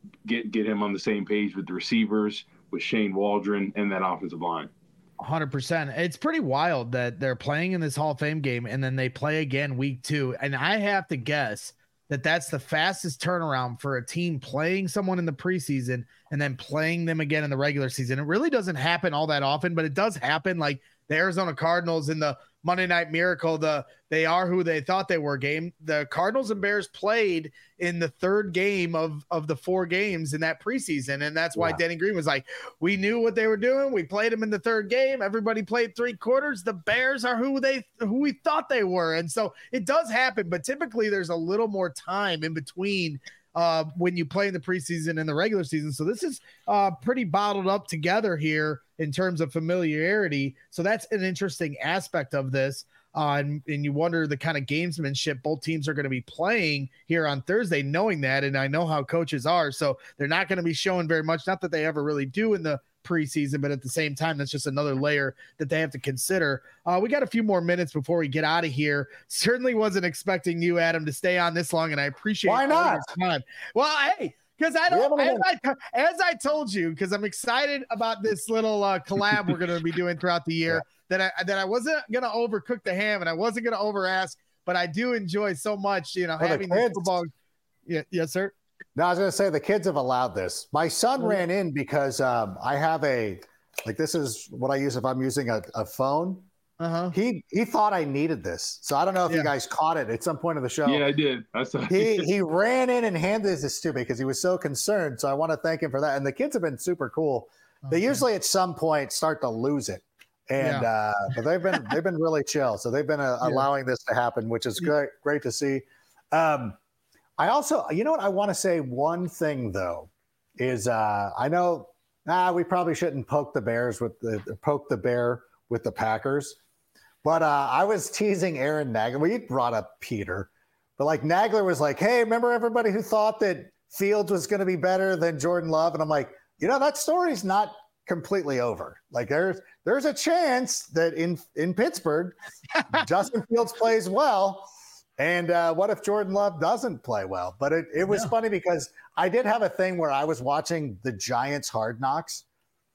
get him on the same page with the receivers, with Shane Waldron and that offensive line. 100%. It's pretty wild that they're playing in this Hall of Fame game and then they play again week 2. And I have to guess that that's the fastest turnaround for a team playing someone in the preseason and then playing them again in the regular season. It really doesn't happen all that often, but it does happen. Like the Arizona Cardinals in the Monday Night Miracle, they are who they thought they were game. The Cardinals and Bears played in the third game of the 4 games in that preseason. And that's why Denny Green was like, we knew what they were doing. We played them in the third game. Everybody played 3 quarters. The Bears are who we thought they were. And so it does happen, but typically there's a little more time in between when you play in the preseason and the regular season. So this is pretty bottled up together here in terms of familiarity. So that's an interesting aspect of this. And you wonder the kind of gamesmanship both teams are going to be playing here on Thursday, knowing that. And I know how coaches are. So they're not going to be showing very much, not that they ever really do in the preseason, but at the same time, that's just another layer that they have to consider. We got a few more minutes before we get out of here. Certainly wasn't expecting you, Adam, to stay on this long, and I appreciate why not your time. Well, hey, because I don't, as I told you, because I'm excited about this little collab we're going to be doing throughout the year. That I wasn't going to overcook the ham and I wasn't going to over ask, but I do enjoy so much, having the football. Yeah, yes, sir. No, I was going to say the kids have allowed this. My son ran in because I have this is what I use if I'm using a phone. Uh-huh. He thought I needed this. So I don't know if you guys caught it at some point of the show. Yeah, I did. I saw he ran in and handed this to me because he was so concerned. So I want to thank him for that. And the kids have been super cool. Okay. They usually at some point start to lose it. And but they've been really chill. So they've been allowing this to happen, which is great to see. I also, you know what, I want to say one thing though is I know we probably shouldn't poke the bear with the Packers, but I was teasing Aaron Nagler. We brought up Peter, but like Nagler was like, "Hey, remember everybody who thought that Fields was going to be better than Jordan Love?" And I'm like, that story's not completely over. Like there's a chance that in Pittsburgh, Justin Fields plays well. And what if Jordan Love doesn't play well? But it was funny because I did have a thing where I was watching the Giants Hard Knocks.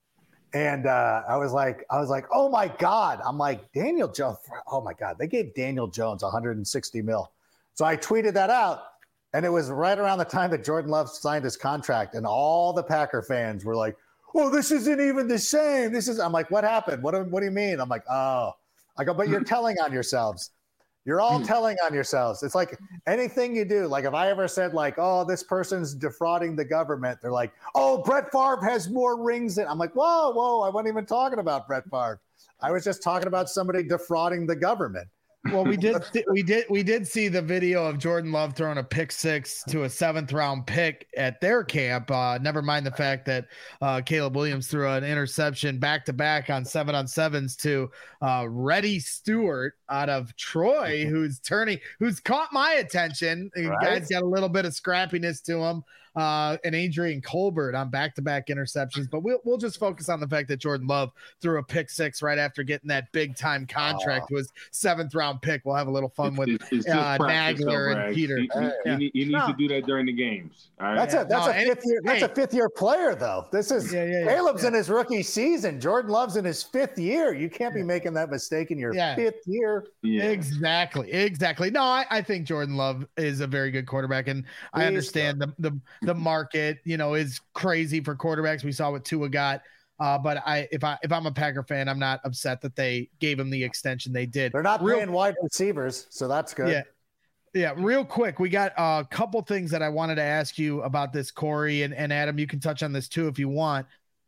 And I was like, oh my God. I'm like, Daniel Jones. Oh my God. They gave Daniel Jones $160 million. So I tweeted that out. And it was right around the time that Jordan Love signed his contract. And all the Packer fans were like, oh, this isn't even the same. I'm like, what happened? What do you mean? I'm like, oh. I go, but you're telling on yourselves. You're all telling on yourselves. It's like anything you do. Like if I ever said like, oh, this person's defrauding the government, they're like, oh, Brett Favre has more rings than. I'm like, whoa, I wasn't even talking about Brett Favre. I was just talking about somebody defrauding the government. Well, we did see the video of Jordan Love throwing a pick 6 to a 7th round pick at their camp. Never mind the fact that Caleb Williams threw an interception back to back on 7-on-7s to Reddy Stewart out of Troy, who's caught my attention. The guy's got a little bit of scrappiness to him. And Adrian Colbert on back-to-back interceptions, but we'll just focus on the fact that Jordan Love threw a pick 6 right after getting that big-time contract, was 7th round pick. We'll have a little fun with Nagler and Peter. You need to do that during the games. All right? That's a fifth-year player, though. This is Caleb's in his rookie season. Jordan Love's in his 5th year. You can't be making that mistake in your 5th year. Yeah. Exactly. No, I think Jordan Love is a very good quarterback, and I understand the market, is crazy for quarterbacks. We saw what Tua got. But if I'm a Packer fan, I'm not upset that they gave him the extension they did. They're not paying wide receivers, so that's good. Yeah. Real quick, we got a couple things that I wanted to ask you about this, Corey, and Adam. You can touch on this too if you want.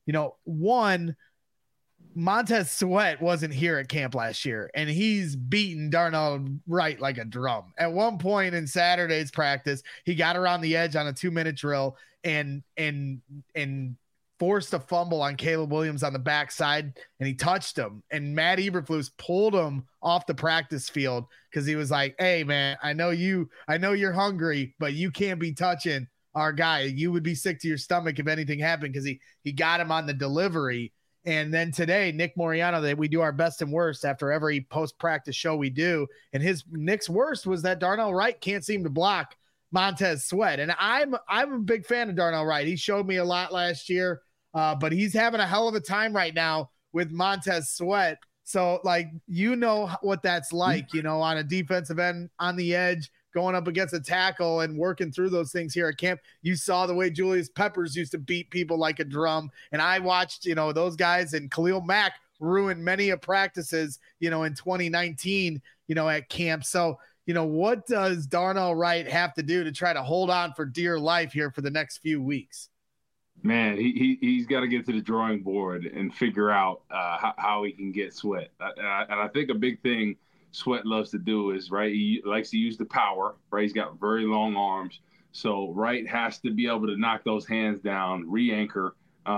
One, Montez Sweat wasn't here at camp last year, and he's beaten Darnell Wright like a drum. At one point in Saturday's practice, he got around the edge on a 2-minute drill and forced a fumble on Caleb Williams on the backside, and he touched him. And Matt Eberflus pulled him off the practice field because he was like, "Hey, man, I know you're hungry, but you can't be touching our guy. You would be sick to your stomach if anything happened," because he got him on the delivery. And then today, Nick Moriano, that we do our best and worst after every post-practice show we do. And Nick's worst was that Darnell Wright can't seem to block Montez Sweat. And I'm a big fan of Darnell Wright. He showed me a lot last year, but he's having a hell of a time right now with Montez Sweat. So, like, you know what that's like, you know, on a defensive end, on the edge, going up against a tackle and working through those things here at camp. You saw the way Julius Peppers used to beat people like a drum. And I watched, you know, those guys, and Khalil Mack ruined many of practices, you know, in 2019, you know, at camp. So, you know, what does Darnell Wright have to do to try to hold on for dear life here for the next few weeks? Man, he's got to get to the drawing board and figure out how he can get Sweat. And I think a big thing Sweat loves to do is, right, he likes to use the power, right? He's got very long arms. So Wright has to be able to knock those hands down, re-anchor.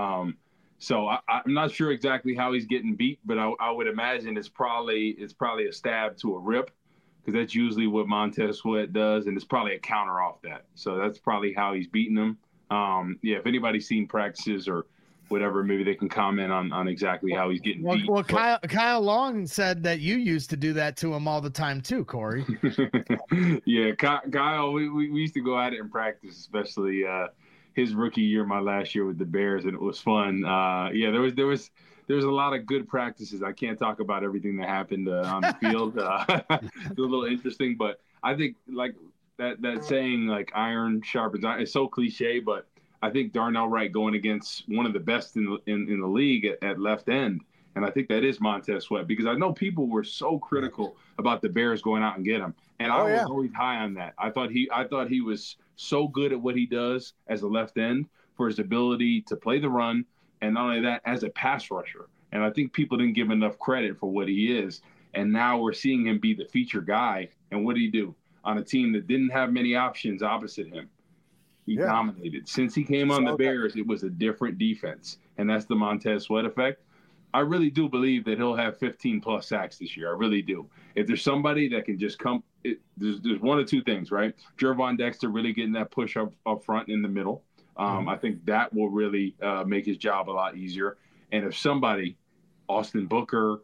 So I'm not sure exactly how he's getting beat, but I would imagine it's probably a stab to a rip, because that's usually what Montez Sweat does, and it's probably a counter off that. So that's probably how he's beating them. If anybody's seen practices or whatever, maybe they can comment on exactly how he's getting beat. Well, Kyle Long said that you used to do that to him all the time too, Corey. Yeah, Kyle, we used to go at it in practice, especially his rookie year, my last year with the Bears, and it was fun. There was a lot of good practices. I can't talk about everything that happened on the field. It was a little interesting, but I think like that saying, like, iron sharpens iron, it's so cliche, but I think Darnell Wright going against one of the best in the league at left end, and I think that is Montez Sweat, because I know people were so critical about the Bears going out and get him, and I was always high on that. I thought he was so good at what he does as a left end for his ability to play the run, and not only that, as a pass rusher. And I think people didn't give enough credit for what he is, and now we're seeing him be the feature guy. And what did he do on a team that didn't have many options opposite him? He dominated. Since he came on the Bears, it was a different defense, and that's the Montez Sweat effect. I really do believe that he'll have 15-plus sacks this year. I really do. If there's somebody that can just come, there's one of two things, right? Gervon Dexter really getting that push up front in the middle. I think that will really make his job a lot easier. And if somebody, Austin Booker,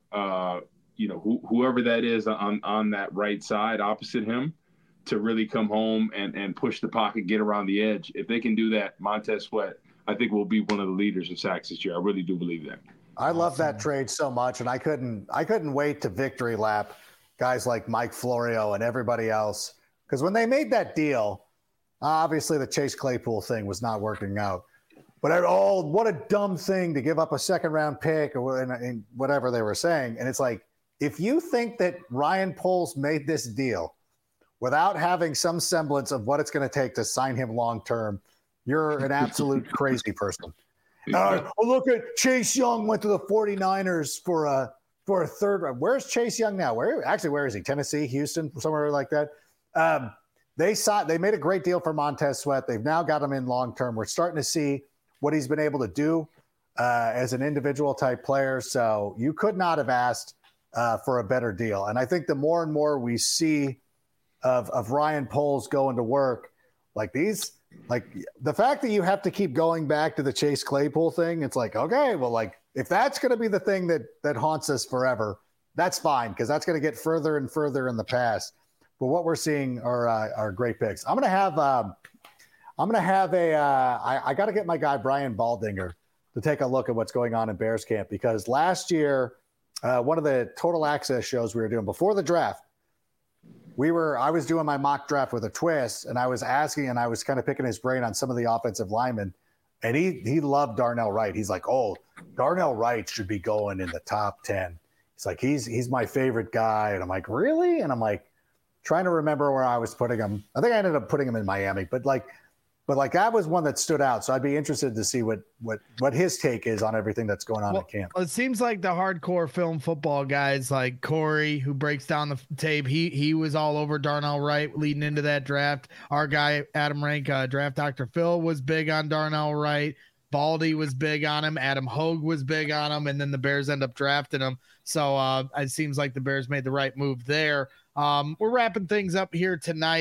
whoever that is on that right side opposite him, to really come home and push the pocket, get around the edge. If they can do that, Montez Sweat, I think, will be one of the leaders in sacks this year. I really do believe that. I love that trade so much, and I couldn't wait to victory lap guys like Mike Florio and everybody else, because when they made that deal, obviously the Chase Claypool thing was not working out. But what a dumb thing to give up a second-round pick or whatever they were saying. And it's like, if you think that Ryan Poles made this deal without having some semblance of what it's going to take to sign him long-term, you're an absolute crazy person. Look at Chase Young went to the 49ers for a third round. Where's Chase Young now? Where is he? Tennessee, Houston, somewhere like that. They made a great deal for Montez Sweat. They've now got him in long-term. We're starting to see what he's been able to do as an individual type player. So you could not have asked for a better deal. And I think the more and more we see of Ryan Poles going to work, like the fact that you have to keep going back to the Chase Claypool thing, it's like, okay, well, like, if that's going to be the thing that haunts us forever, that's fine, because that's going to get further and further in the past. But what we're seeing are great picks. I got to get my guy Brian Baldinger to take a look at what's going on in Bears camp, because last year, one of the Total Access shows we were doing before the draft, I was doing my mock draft with a twist, and I was asking, and I was kind of picking his brain on some of the offensive linemen, and he loved Darnell Wright. He's like, oh, Darnell Wright should be going in the top 10. He's like, he's my favorite guy. And I'm like, really? And I'm like, trying to remember where I was putting him. I think I ended up putting him in Miami, but that was one that stood out. So I'd be interested to see what his take is on everything that's going on at camp. It seems like the hardcore film football guys like Corey, who breaks down the tape, he was all over Darnell Wright leading into that draft. Our guy, Adam Rank, Draft Dr. Phil, was big on Darnell Wright. Baldy was big on him. Adam Hogue was big on him. And then the Bears end up drafting him. So it seems like the Bears made the right move there. We're wrapping things up here tonight.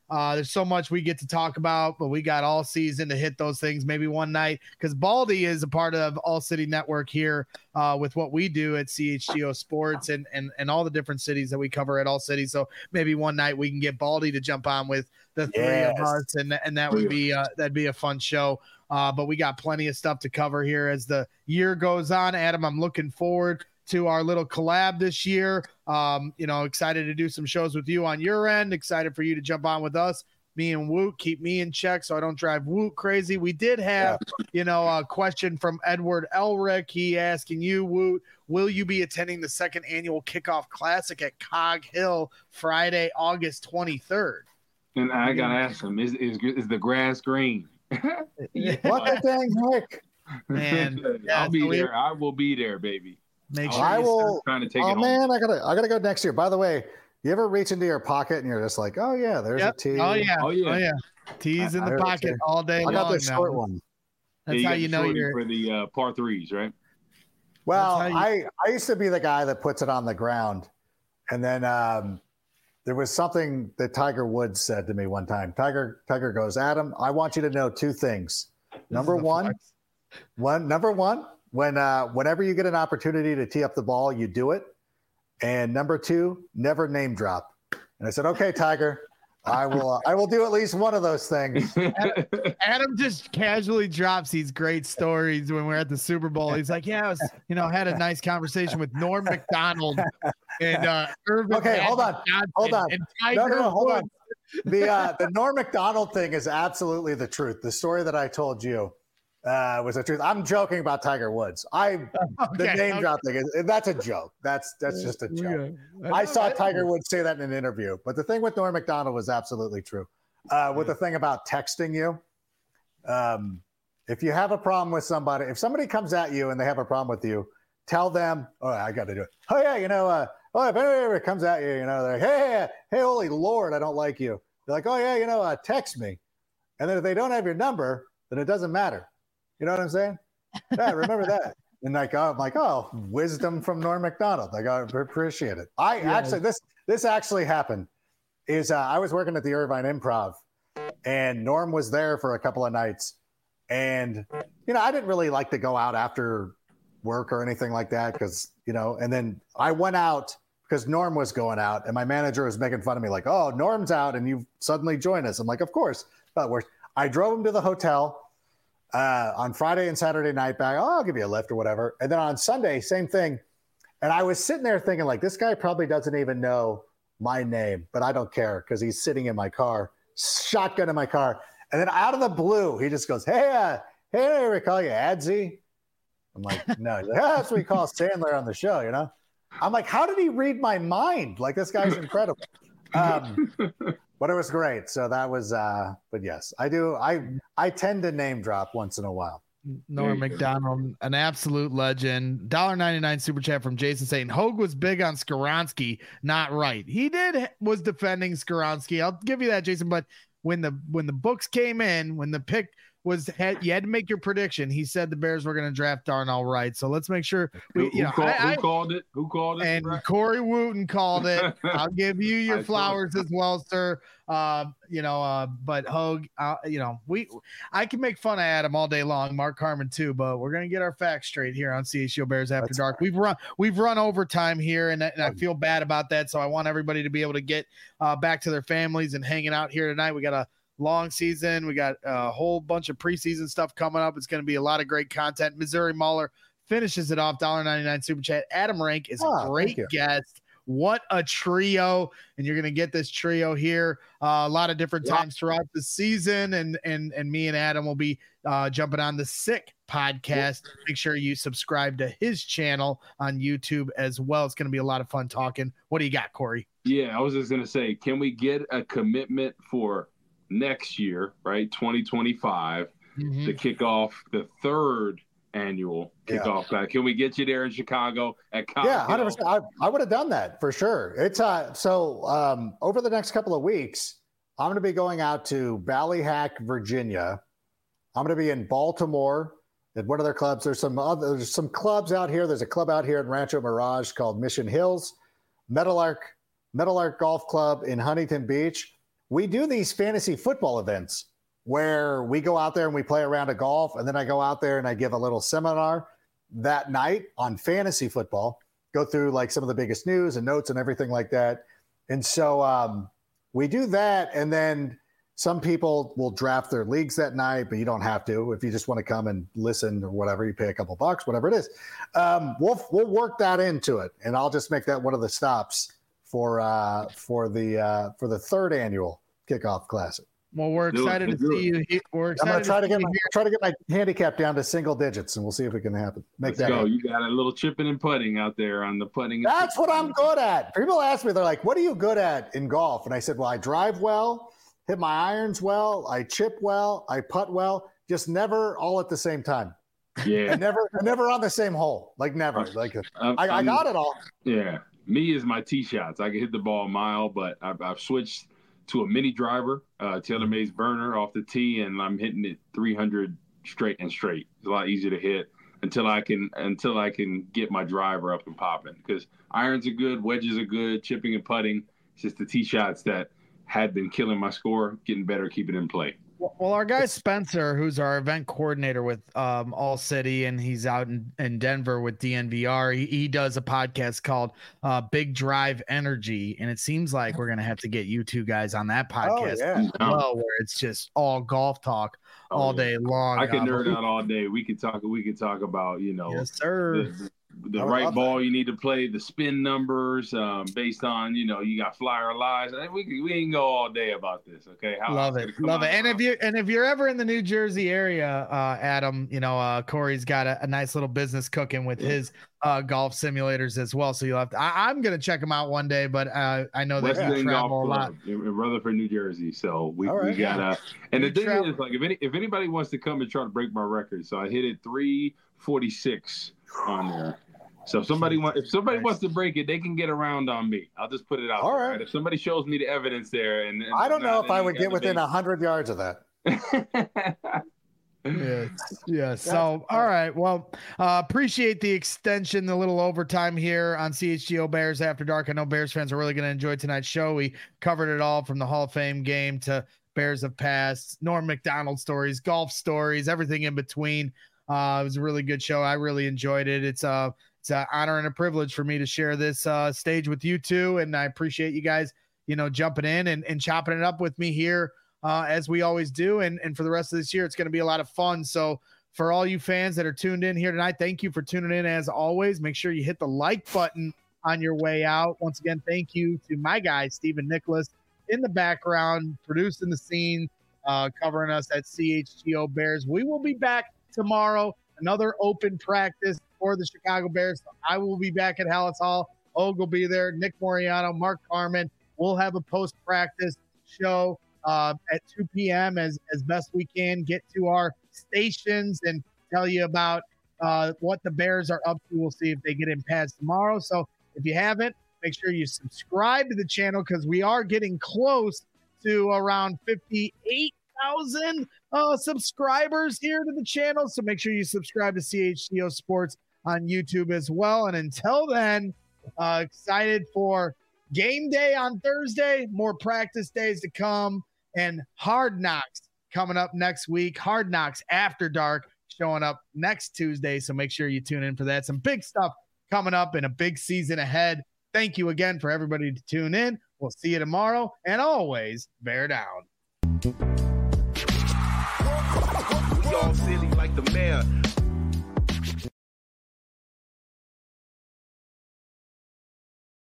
There's so much we get to talk about, but we got all season to hit those things maybe one night, because Baldy is a part of All City Network here with what we do at CHGO Sports and all the different cities that we cover at All City. So maybe one night we can get Baldy to jump on with the three of us, and that would be that'd be a fun show. But we got plenty of stuff to cover here as the year goes on. Adam, I'm looking forward to our little collab this year. Excited to do some shows with you on your end. Excited for you to jump on with us. Me and Woot, keep me in check so I don't drive Woot crazy. We did have, a question from Edward Elric. He asking you, Woot, will you be attending the second annual Kickoff Classic at Cog Hill Friday, August 23rd? And I gotta ask him, is the grass green? What the dang heck? Man, I'll be there. I will be there, baby. Make sure I will. Trying to take oh it man, I gotta go next year. By the way, you ever reach into your pocket and you're just like, oh yeah, there's a tee. Oh yeah. Tees in the pocket all day long. I got the short now. one. That's how you know you're for the par threes, right? Well, I used to be the guy that puts it on the ground, and then there was something that Tiger Woods said to me one time. Tiger goes, Adam, I want you to know two things. Number one, whenever you get an opportunity to tee up the ball, you do it. And number two, never name drop. And I said, okay, Tiger, I will do at least one of those things. Adam just casually drops these great stories when we're at the Super Bowl. He's like, yeah, I was, had a nice conversation with Norm Macdonald and Irvin. Okay, hold on. And Tiger no, hold Woods. on. The Norm Macdonald thing is absolutely the truth. The story that I told you was the truth. I'm joking about Tiger Woods. The name drop thing that's a joke. That's just a joke. Yeah. I saw Tiger Woods say that in an interview. But the thing with Norm Macdonald was absolutely true. With the thing about texting you, if you have a problem with somebody, if somebody comes at you and they have a problem with you, tell them, oh, I got to do it. Oh yeah, if anybody comes at you, they're like, hey, holy Lord, I don't like you. They're like, oh yeah, text me. And then if they don't have your number, then it doesn't matter. You know what I'm saying? Yeah, remember that. And I'm like, oh, wisdom from Norm Macdonald. I appreciate it. Actually, this actually happened. I was working at the Irvine Improv, and Norm was there for a couple of nights. And, I didn't really like to go out after work or anything like that because, and then I went out because Norm was going out, and my manager was making fun of me like, oh, Norm's out, and you suddenly join us. I'm like, of course. But I drove him to the hotel on Friday and Saturday night back. Oh, I'll give you a lift or whatever. And then on Sunday, same thing. And I was sitting there thinking like, this guy probably doesn't even know my name, but I don't care because he's sitting in my car, shotgun in my car. And then out of the blue, he just goes, hey, we call you Adsy. I'm like, no. He's like, that's what we call Sandler on the show, I'm like, how did he read my mind? Like, this guy's incredible. But it was great. So that was, but yes, I do. I tend to name drop once in a while. Norm Macdonald, an absolute legend. $1.99 super chat from Jason saying Hogue was big on Skoronski, not right. He was defending Skoronski. I'll give you that, Jason. But when the books came in, when the pick you had to make your prediction. He said the Bears were going to draft Darnell Wright. So let's make sure who called it? Who called it? And Corey Wooten called it. I'll give you your flowers as well, sir. But Hogue, I can make fun of Adam all day long, Mark Carman too, but we're going to get our facts straight here on CHGO Bears After Dark. We've run overtime here, and I feel bad about that. So I want everybody to be able to get back to their families and hanging out here tonight. We got a long season. We got a whole bunch of preseason stuff coming up. It's going to be a lot of great content. Missouri Mauler finishes it off. $1.99 super chat. Adam Rank is a great guest. What a trio. And you're going to get this trio here a lot of different times throughout the season. And me and Adam will be jumping on the Sick podcast. Make sure you subscribe to his channel on YouTube as well. It's going to be a lot of fun talking. What do you got, Corey? Yeah, I was just going to say, can we get a commitment for next year, right, 2025, to kick off the third annual kickoff back? Can we get you there in Chicago at Cog Hill? 100%. I would have done that for sure. It's over the next couple of weeks, I'm going to be going out to Ballyhack, Virginia. I'm going to be in Baltimore at one of their clubs. There's some clubs out here. There's a club out here in Rancho Mirage called Mission Hills, Metal Arc Golf Club in Huntington Beach. we do these fantasy football events where we go out there and we play a round of golf, and then I go out there and I give a little seminar that night on fantasy football, go through like some of the biggest news and notes and everything like that. And so we do that, and then some people will draft their leagues that night, but you don't have to. If you just want to come and listen or whatever, you pay a couple bucks, whatever it is. We'll work that into it, and I'll just make that one of the stops for the third annual Kickoff Classic. Well, we're excited to see you. We're excited. I'm gonna try to get my handicap down to single digits, and we'll see if it can happen. Let's go. You got a little chipping and putting out there on the putting. That's what I'm good at. People ask me, they're like, "What are you good at in golf?" And I said, "Well, I drive well, hit my irons well, I chip well, I putt well, just never all at the same time." Yeah, never on the same hole. Like never. Like I got it all. Yeah, me is my tee shots. I can hit the ball a mile, but I've switched to a mini driver, TaylorMade's burner off the tee, and I'm hitting it 300 straight. It's a lot easier to hit until I can get my driver up and popping. Because irons are good, wedges are good, chipping and putting. It's just the tee shots that had been killing my score, getting better, keeping it in play. Well, our guy Spencer, who's our event coordinator with All City, and he's out in Denver with DNVR. He does a podcast called Big Drive Energy, and it seems like we're gonna have to get you two guys on that podcast as well, where it's just all golf talk all day long. I can nerd out all day. We could talk about yes, sir. The right ball you need to play, the spin numbers based on, you got flyer lies. We can go all day about this. Okay. Love it. And if you're ever in the New Jersey area, Adam, Corey's got a nice little business cooking with his golf simulators as well. So you'll have to, I'm going to check them out one day, but I know that you travel a lot in Rutherford, New Jersey. So we got and the thing is, like, if anybody wants to come and try to break my record, so I hit it 346 on there. So if somebody wants to break it, they can get around on me. I'll just put it out there. Right? If somebody shows me the evidence there, and I don't know if I would get within 100 yards of that. Yeah. So, all right. Well, appreciate the extension, the little overtime here on CHGO Bears After Dark. I know Bears fans are really going to enjoy tonight's show. We covered it all from the Hall of Fame game to Bears of Past, Norm Macdonald stories, golf stories, everything in between. It was a really good show. I really enjoyed it. It's an honor and a privilege for me to share this stage with you two, and I appreciate you guys, jumping in and chopping it up with me here as we always do. And for the rest of this year, it's going to be a lot of fun. So for all you fans that are tuned in here tonight, thank you for tuning in as always. Make sure you hit the like button on your way out. Once again, thank you to my guy, Stephen Nicholas, in the background, producing the scene, covering us at CHGO Bears. We will be back tomorrow, another open practice for the Chicago Bears. So I will be back at Hallis Hall. Og will be there. Nick Moriano, Mark Carman. We'll have a post-practice show at 2 p.m. as best we can, get to our stations and tell you about what the Bears are up to. We'll see if they get in pads tomorrow. So if you haven't, make sure you subscribe to the channel, because we are getting close to around 58,000 subscribers here to the channel. So make sure you subscribe to CHGO Sports on YouTube as well. And until then, excited for game day on Thursday, more practice days to come, and Hard Knocks coming up next week. Hard Knocks After Dark showing up next Tuesday. So make sure you tune in for that. Some big stuff coming up and a big season ahead. Thank you again for everybody to tune in. We'll see you tomorrow, and always bear down. We all silly like the mayor.